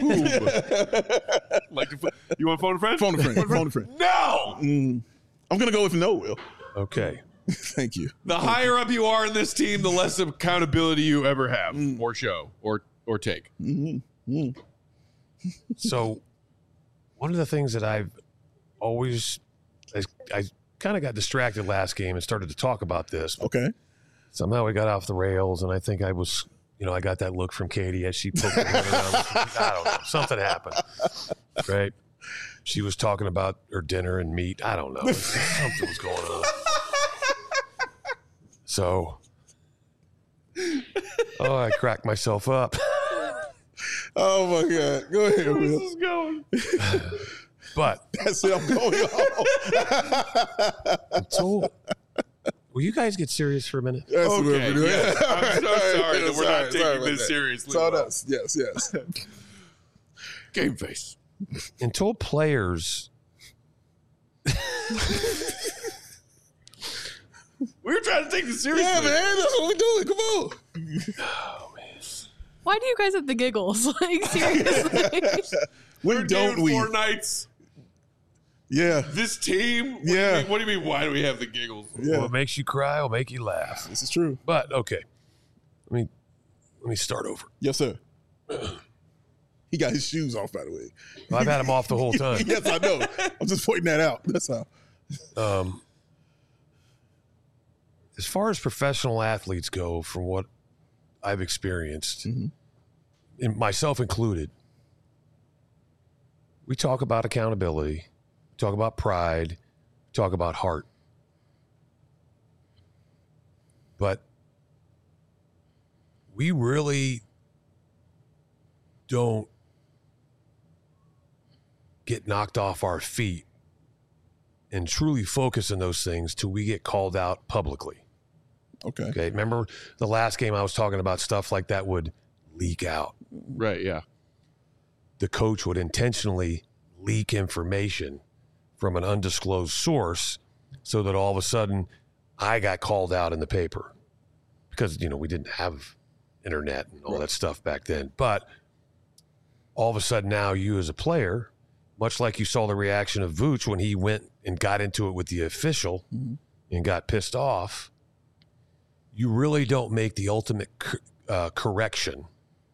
You want phone a friend? Phone a friend. Phone a friend. No. I'm going to go with no, Will. Okay. Thank you. The higher up you are in this team, the less accountability you ever have or show or take. So one of the things that I've always, I kind of got distracted last game and started to talk about this. Okay. Somehow we got off the rails, and I think I was, I got that look from Katie as she poked her head around. I don't know. Something happened, right? She was talking about her dinner and meat. I don't know. Something was going on. So, I cracked myself up. Oh, my God. Go ahead, Where Will. is this going? But That's it. I'm going home. will you guys get serious for a minute? That's what we're Okay, doing. yes. I'm so sorry that we're not taking about this that. seriously. It's all Will. us. Yes, yes. Game face. Until players, We were trying to take this seriously. Yeah, man. That's what we're doing. Come on. Why do you guys have the giggles? Like, seriously. When We're don't doing we? 4 nights. Yeah. This team. Yeah. What do you mean? Why do we have the giggles? Yeah. what makes you cry will make you laugh. This is true. But okay, let me start over. Yes, sir. He got his shoes off, by the way. Well, I've had them off the whole time. Yes, I know. I'm just pointing that out. That's how. As far as professional athletes go, from what I've experienced, and myself included, we talk about accountability, we talk about pride, we talk about heart. But we really don't get knocked off our feet and truly focus on those things till we get called out publicly. Okay. Okay. Remember the last game I was talking about stuff like that would leak out. Right. Yeah. The coach would intentionally leak information from an undisclosed source so that all of a sudden I got called out in the paper because, we didn't have internet and all that stuff back then. But all of a sudden now you as a player, much like you saw the reaction of Vooch when he went and got into it with the official and got pissed off, you really don't make the ultimate correction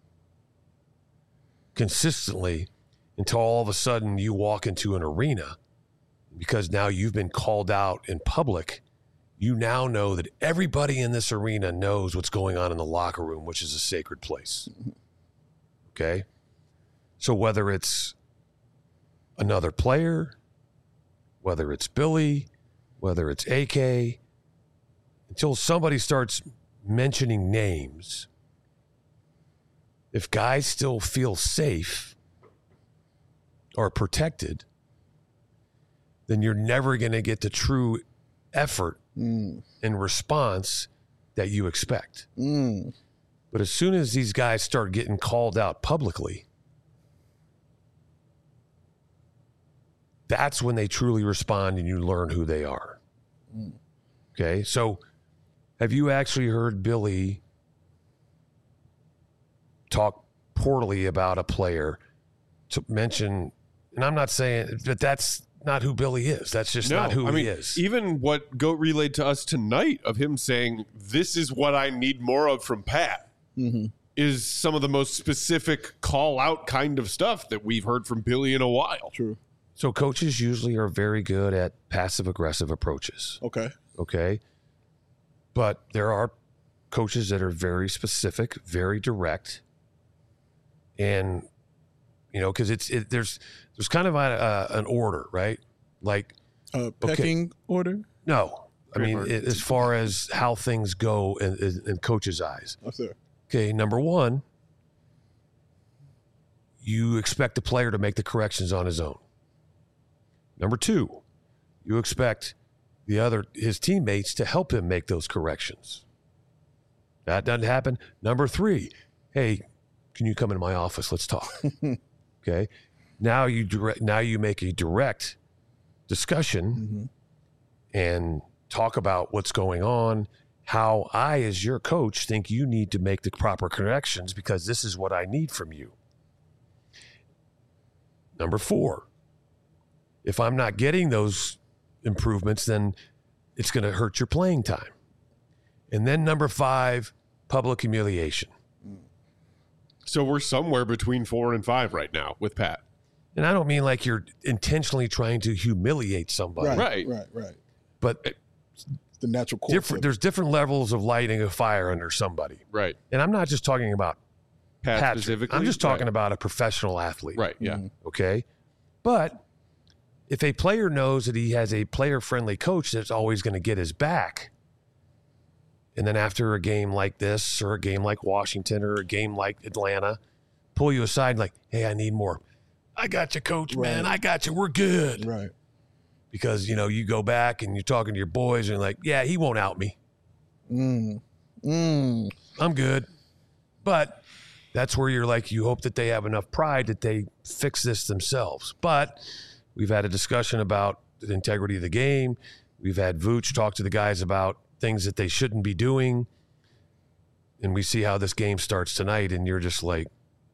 consistently until all of a sudden you walk into an arena because now you've been called out in public. You now know that everybody in this arena knows what's going on in the locker room, which is a sacred place. Okay? So whether it's another player, whether it's Billy, whether it's AK, until somebody starts mentioning names, if guys still feel safe or protected, then you're never going to get the true effort and response that you expect. But as soon as these guys start getting called out publicly, that's when they truly respond and you learn who they are. Okay, so have you actually heard Billy talk poorly about a player to mention, and I'm not saying that that's not who Billy is. That's just not who he is. Even what Goat relayed to us tonight of him saying, this is what I need more of from Pat, is some of the most specific call-out kind of stuff that we've heard from Billy in a while. True. So coaches usually are very good at passive-aggressive approaches. Okay? But there are coaches that are very specific, very direct, and because there's kind of an order, right? Like pecking order. No, I mean as far as how things go in coaches' eyes. Oh, sir. Okay, number one, you expect the player to make the corrections on his own. Number two, you expect his teammates to help him make those corrections. That doesn't happen. Number three, hey, can you come into my office? Let's talk. Okay. Now you make a direct discussion and talk about what's going on, how I, as your coach, think you need to make the proper corrections because this is what I need from you. Number four, if I'm not getting those improvements, then it's going to hurt your playing time. And then number five, public humiliation. So we're somewhere between 4 and 5 right now with Pat. And I don't mean like you're intentionally trying to humiliate somebody. Right. But the natural course. There's different levels of lighting a fire under somebody. Right. And I'm not just talking about Pat specifically. I'm just talking about a professional athlete. Right, yeah. Okay? But if a player knows that he has a player-friendly coach that's always going to get his back, and then after a game like this or a game like Washington or a game like Atlanta, pull you aside like, hey, I need more. I got you, coach, man. I got you. We're good. Right. Because, you go back and you're talking to your boys and you're like, yeah, he won't out me. I'm good. But that's where you're like, you hope that they have enough pride that they fix this themselves. But we've had a discussion about the integrity of the game. We've had Vooch talk to the guys about things that they shouldn't be doing. And we see how this game starts tonight, and you're just like,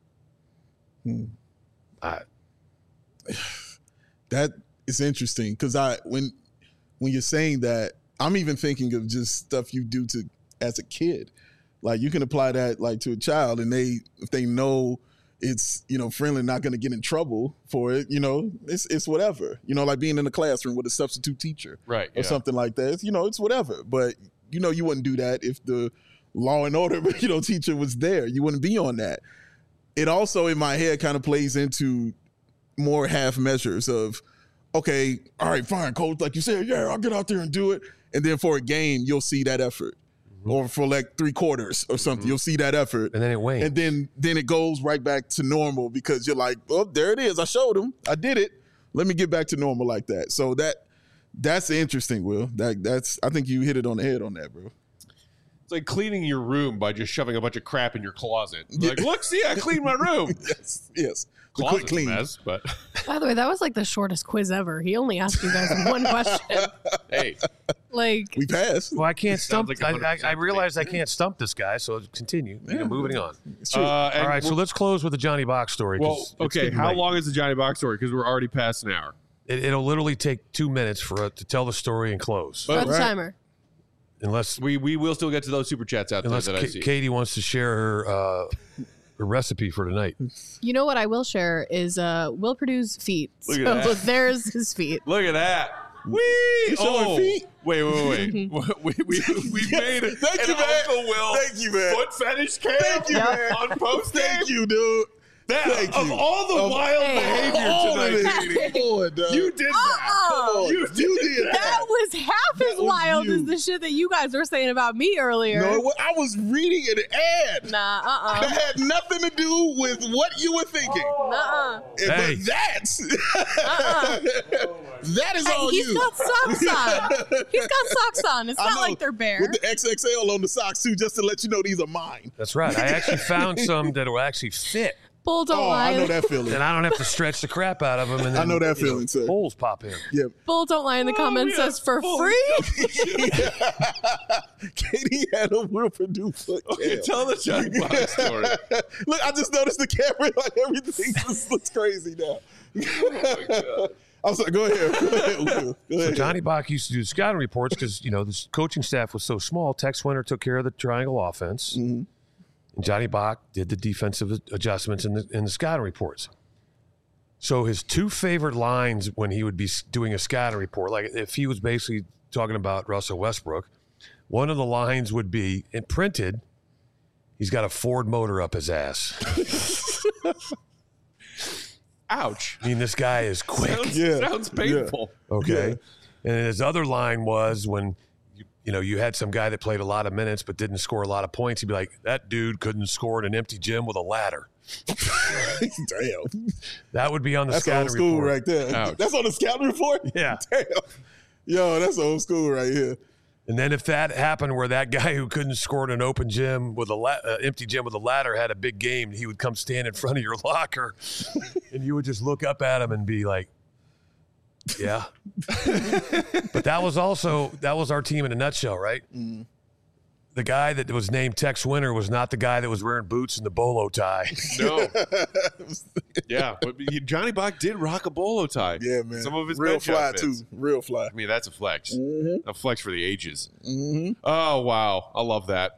that is interesting because when you're saying that, I'm even thinking of just stuff you do as a kid. Like you can apply that like to a child, and if they know it's friendly, not going to get in trouble for it. It's whatever. Like being in a classroom with a substitute teacher, right, or something like that. It's whatever. But you wouldn't do that if the law and order teacher was there. You wouldn't be on that. It also in my head kind of plays into more half measures of, okay, all right, fine, coach, like you said, yeah, I'll get out there and do it. And then for a game, you'll see that effort. Or for like 3 quarters or something, you'll see that effort. And then it wanes. And then it goes right back to normal because you're like, oh, there it is. I showed him. I did it. Let me get back to normal like that. So that's interesting, Will. That's I think you hit it on the head on that, bro. It's like cleaning your room by just shoving a bunch of crap in your closet. Like, look, see, I cleaned my room. Yes. Closet's a mess, but By the way, that was like the shortest quiz ever. He only asked you guys one question. hey, Like we passed. Well, I can't stump. like I realize I can't stump this guy, so continue. Moving on. It's true. All right, so let's close with the Johnny Box story. Well, 'cause it's okay. getting How late. long is the Johnny Box story? Because we're already past an hour. It'll literally take 2 minutes for it to tell the story and close. start the right. timer. Unless We will still get to those super chats out there that I see. Katie wants to share her recipe for tonight. You know what I will share is Will Purdue's feet. Look at that. There's his feet. Look at that. Wee! showing feet? Wait. we made it. Thank you, man. Uncle Will Thank you, man. foot fetish cam Thank you, man. on post Thank you, dude. Thank Of you. all the wild behavior All of tonight, it. Katie, Come on, dog. you did that. Come on. You did That that. was half as was wild you. as the shit that you guys were saying about me earlier. No, I was reading an ad. Nah, That had nothing to do with what you were thinking. Nuh-uh. Hey. But that's that is all He's you. got socks on. He's got socks on. It's I not know, like they're bare. with the XXL on the socks too, just to let you know these are mine. That's right. I actually found some that will actually fit, Bull don't Oh, lie. I know that feeling. and I don't have to stretch the crap out of them. And then, I know that feeling, sir. Holes pop in. Yeah. Bull don't lie in the comments yeah. says for free. Katie had a Will Purdue foot Okay, cam. tell the Johnny Box story. Look, I just noticed the camera, like everything just looks crazy now. I'm sorry, go ahead. Will. Go So ahead. Johnny Bach used to do the scouting reports because, the coaching staff was so small. Tex Winter took care of the triangle offense. Mm-hmm. And Johnny Bach did the defensive adjustments in the scouting reports. So his two favorite lines when he would be doing a scouting report, like if he was basically talking about Russell Westbrook, one of the lines would be, and printed, he's got a Ford motor up his ass. Ouch. I mean, this guy is quick. Sounds painful. Okay. And his other line was when you had some guy that played a lot of minutes but didn't score a lot of points, he'd be like, that dude couldn't score in an empty gym with a ladder. Damn. That would be on the That's scouting old school report. right there. Ouch. That's on the scouting report? Yeah. Damn. Yo, that's old school right here. And then if that happened where that guy who couldn't score in an open gym with a empty gym with a ladder had a big game, he would come stand in front of your locker and you would just look up at him and be like, yeah. But that was our team in a nutshell, right? Mm. The guy that was named Tex Winter was not the guy that was wearing boots and the bolo tie. No. Yeah, but Johnny Bach did rock a bolo tie. Yeah, man. Some of his real bench fly outfits. too. Real fly. I mean, that's a flex. Mm-hmm. A flex for the ages. Oh, wow. I love that.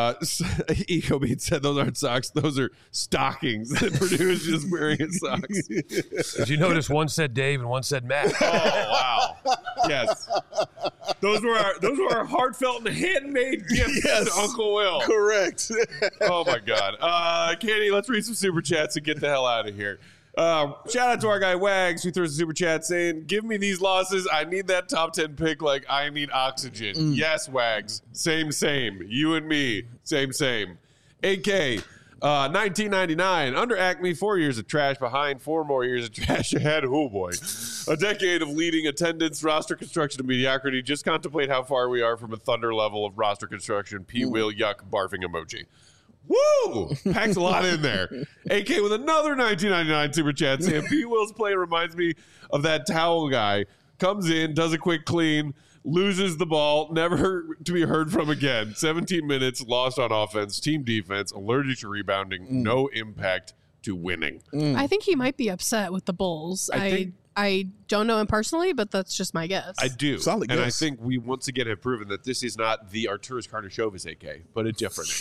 Eco Beat said those aren't socks. Those are stockings that Purdue is just wearing his socks. Did you notice one said Dave and one said Matt? Oh, wow. Yes. Those were our heartfelt and handmade gifts to Uncle Will. Correct. Oh, my God. Katie, let's read some super chats and get the hell out of here. Shout out to our guy Wags who threw us a super chat saying, give me these losses. I need that top 10 pick like I need oxygen. Yes, Wags. Same. You and me. Same. AK, 1999. Under Acme, 4 years of trash behind, 4 more years of trash ahead. Oh, boy. A decade of leading attendance, roster construction, and mediocrity. Just contemplate how far we are from a Thunder level of roster construction. P. Will yuck barfing emoji. Woo! Packs a lot in there. AK with another 1999 super chat saying P. Will's play reminds me of that towel guy. Comes in, does a quick clean, loses the ball, never to be heard from again. 17 minutes, lost on offense, team defense, allergic to rebounding, no impact to winning. I think he might be upset with the Bulls. I don't know him personally, but that's just my guess. I do. Solid and I guess. think we once again have proven that this is not the Arturas Karnisovas AK, but a different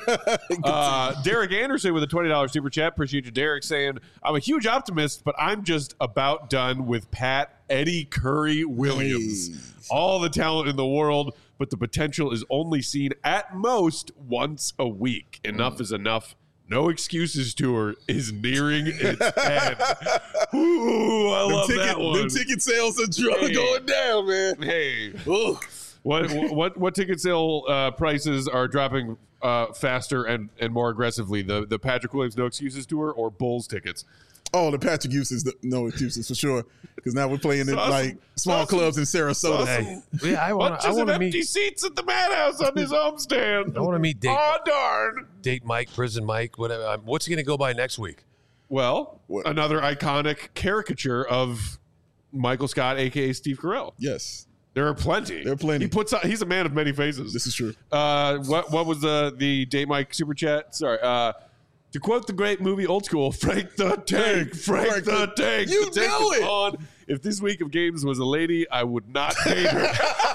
AK. Derek Anderson with a $20 super chat. Appreciate you, Derek, saying, I'm a huge optimist, but I'm just about done with Pat Eddie Curry Williams. All the talent in the world, but the potential is only seen at most once a week. Enough is enough. No Excuses tour is nearing its end. Ooh, I love that one. Them ticket sales are going down, man. Hey, Ooh. what ticket sale prices are dropping faster and more aggressively? The Patrick Williams No Excuses tour or Bulls tickets? Oh, the Patrick Eustace, no excuses for sure. Because now we're playing in like small clubs in Sarasota. Hey, yeah, I want Bunches of to empty meet. seats at the Madhouse on his homestand. I want to meet Oh, darn. Date Mike, Prison Mike, whatever. What's he going to go by next week? Well, What? another iconic caricature of Michael Scott, a.k.a. Steve Carell. Yes, There are plenty. There are plenty. He's a man of many faces. this is true. What was the Date Mike super chat? Sorry. To quote the great movie Old School, Frank the Tank, Frank the Tank. You the tank know is it. on. If this week of games was a lady, I would not date her.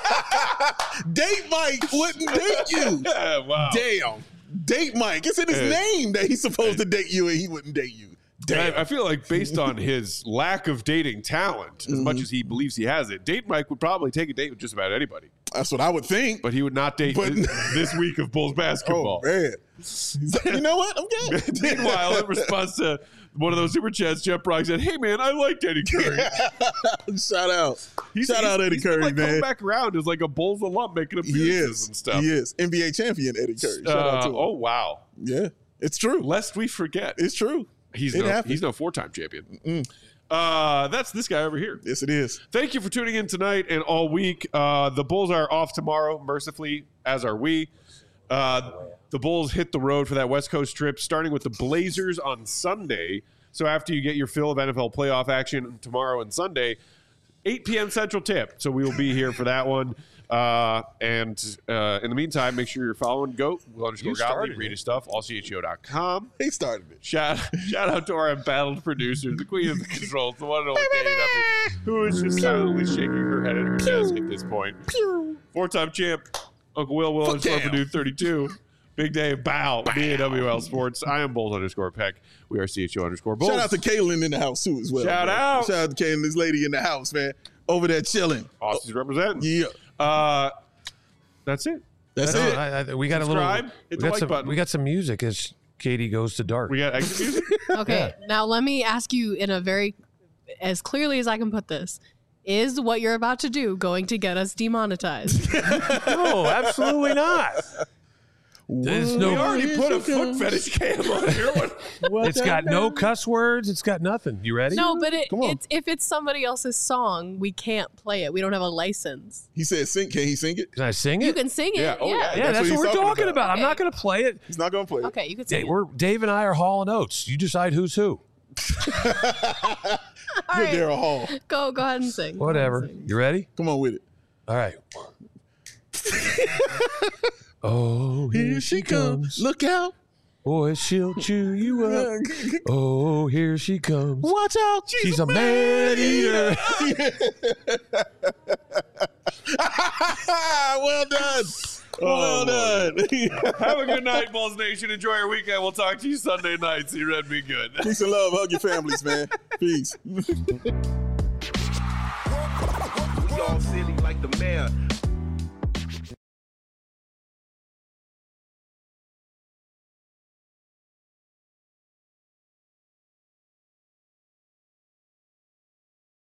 Date Mike wouldn't date you. Wow. Damn. Date Mike. It's in his name that he's supposed to date you and he wouldn't date you. Damn. I feel like based on his lack of dating talent, as much as he believes he has it, Date Mike would probably take a date with just about anybody. That's what I would think. But he would not date But- this week of Bulls basketball. Oh, man. You know what? I'm good. Meanwhile, in response to one of those super chats, Jeff Brock said, "Hey man, I liked Eddie Curry." Shout out. Shout out Eddie Curry, like, man. Coming back around as like a Bulls alum, making appearances and stuff. He is. NBA champion Eddie Curry. Shout out to him. Oh wow. Yeah. It's true. Lest we forget. It's true. He's It no happened. 4-time champion. That's this guy over here. Yes, it is. Thank you for tuning in tonight and all week. The Bulls are off tomorrow, mercifully, as are we. The Bulls hit the road for that West Coast trip, starting with the Blazers on Sunday. So after you get your fill of NFL playoff action tomorrow and Sunday, 8 p.m. Central Tip. So we will be here for that one. And in the meantime, make sure you're following GOAT, Will_Gottlieb, read his stuff, allcho.com. He started it. Shout out to our embattled producer, the queen of the controls, the one and only Katie Duffy, who is just silently shaking her head at her desk at this point. 4-time champ, Uncle Will_Purdue 32. Big day of bow. BAWL Sports. I am Bulls_Peck. We are CHO_Bulls. Shout out to Kaylin in the house, too, as well. Shout out. Shout out to Kaylin, this lady in the house, man. Over there chilling. Aussies representing. Yeah. That's it. That's it. We got Subscribe. Hit the like button. We got some music as Katie goes to dark. We got exit music. Okay, now let me ask you in a very, as clearly as I can put this, is what you're about to do going to get us demonetized? No, absolutely not. There's We already put a foot fetish cam on here. It's got no cuss words. It's got nothing. You ready? No, but Come on. it's if it's somebody else's song, we can't play it. We don't have a license. He said, "Sing." Can he sing it? Can I sing You it? can sing it. Yeah, oh, yeah. Yeah, that's what what he's we're talking talking about. I'm Okay. not going to play it. He's not going to play it. Okay, you can sing Dave and I are Hall and Oates. You decide who's who. it. All Good right, Daryl Hall. go ahead and sing. Go ahead Whatever. and sing. You ready? Come on with it. All right. Oh, here she comes. Look out. Boy, she'll chew you up. Oh, here she comes. Watch out. She's a man eater. Well done. Well done. Have a good night, Bulls Nation. Enjoy your weekend. We'll talk to you Sunday night. See you, Red. Be good. Peace and love. Hug your families, man. Peace. We all silly like the mayor.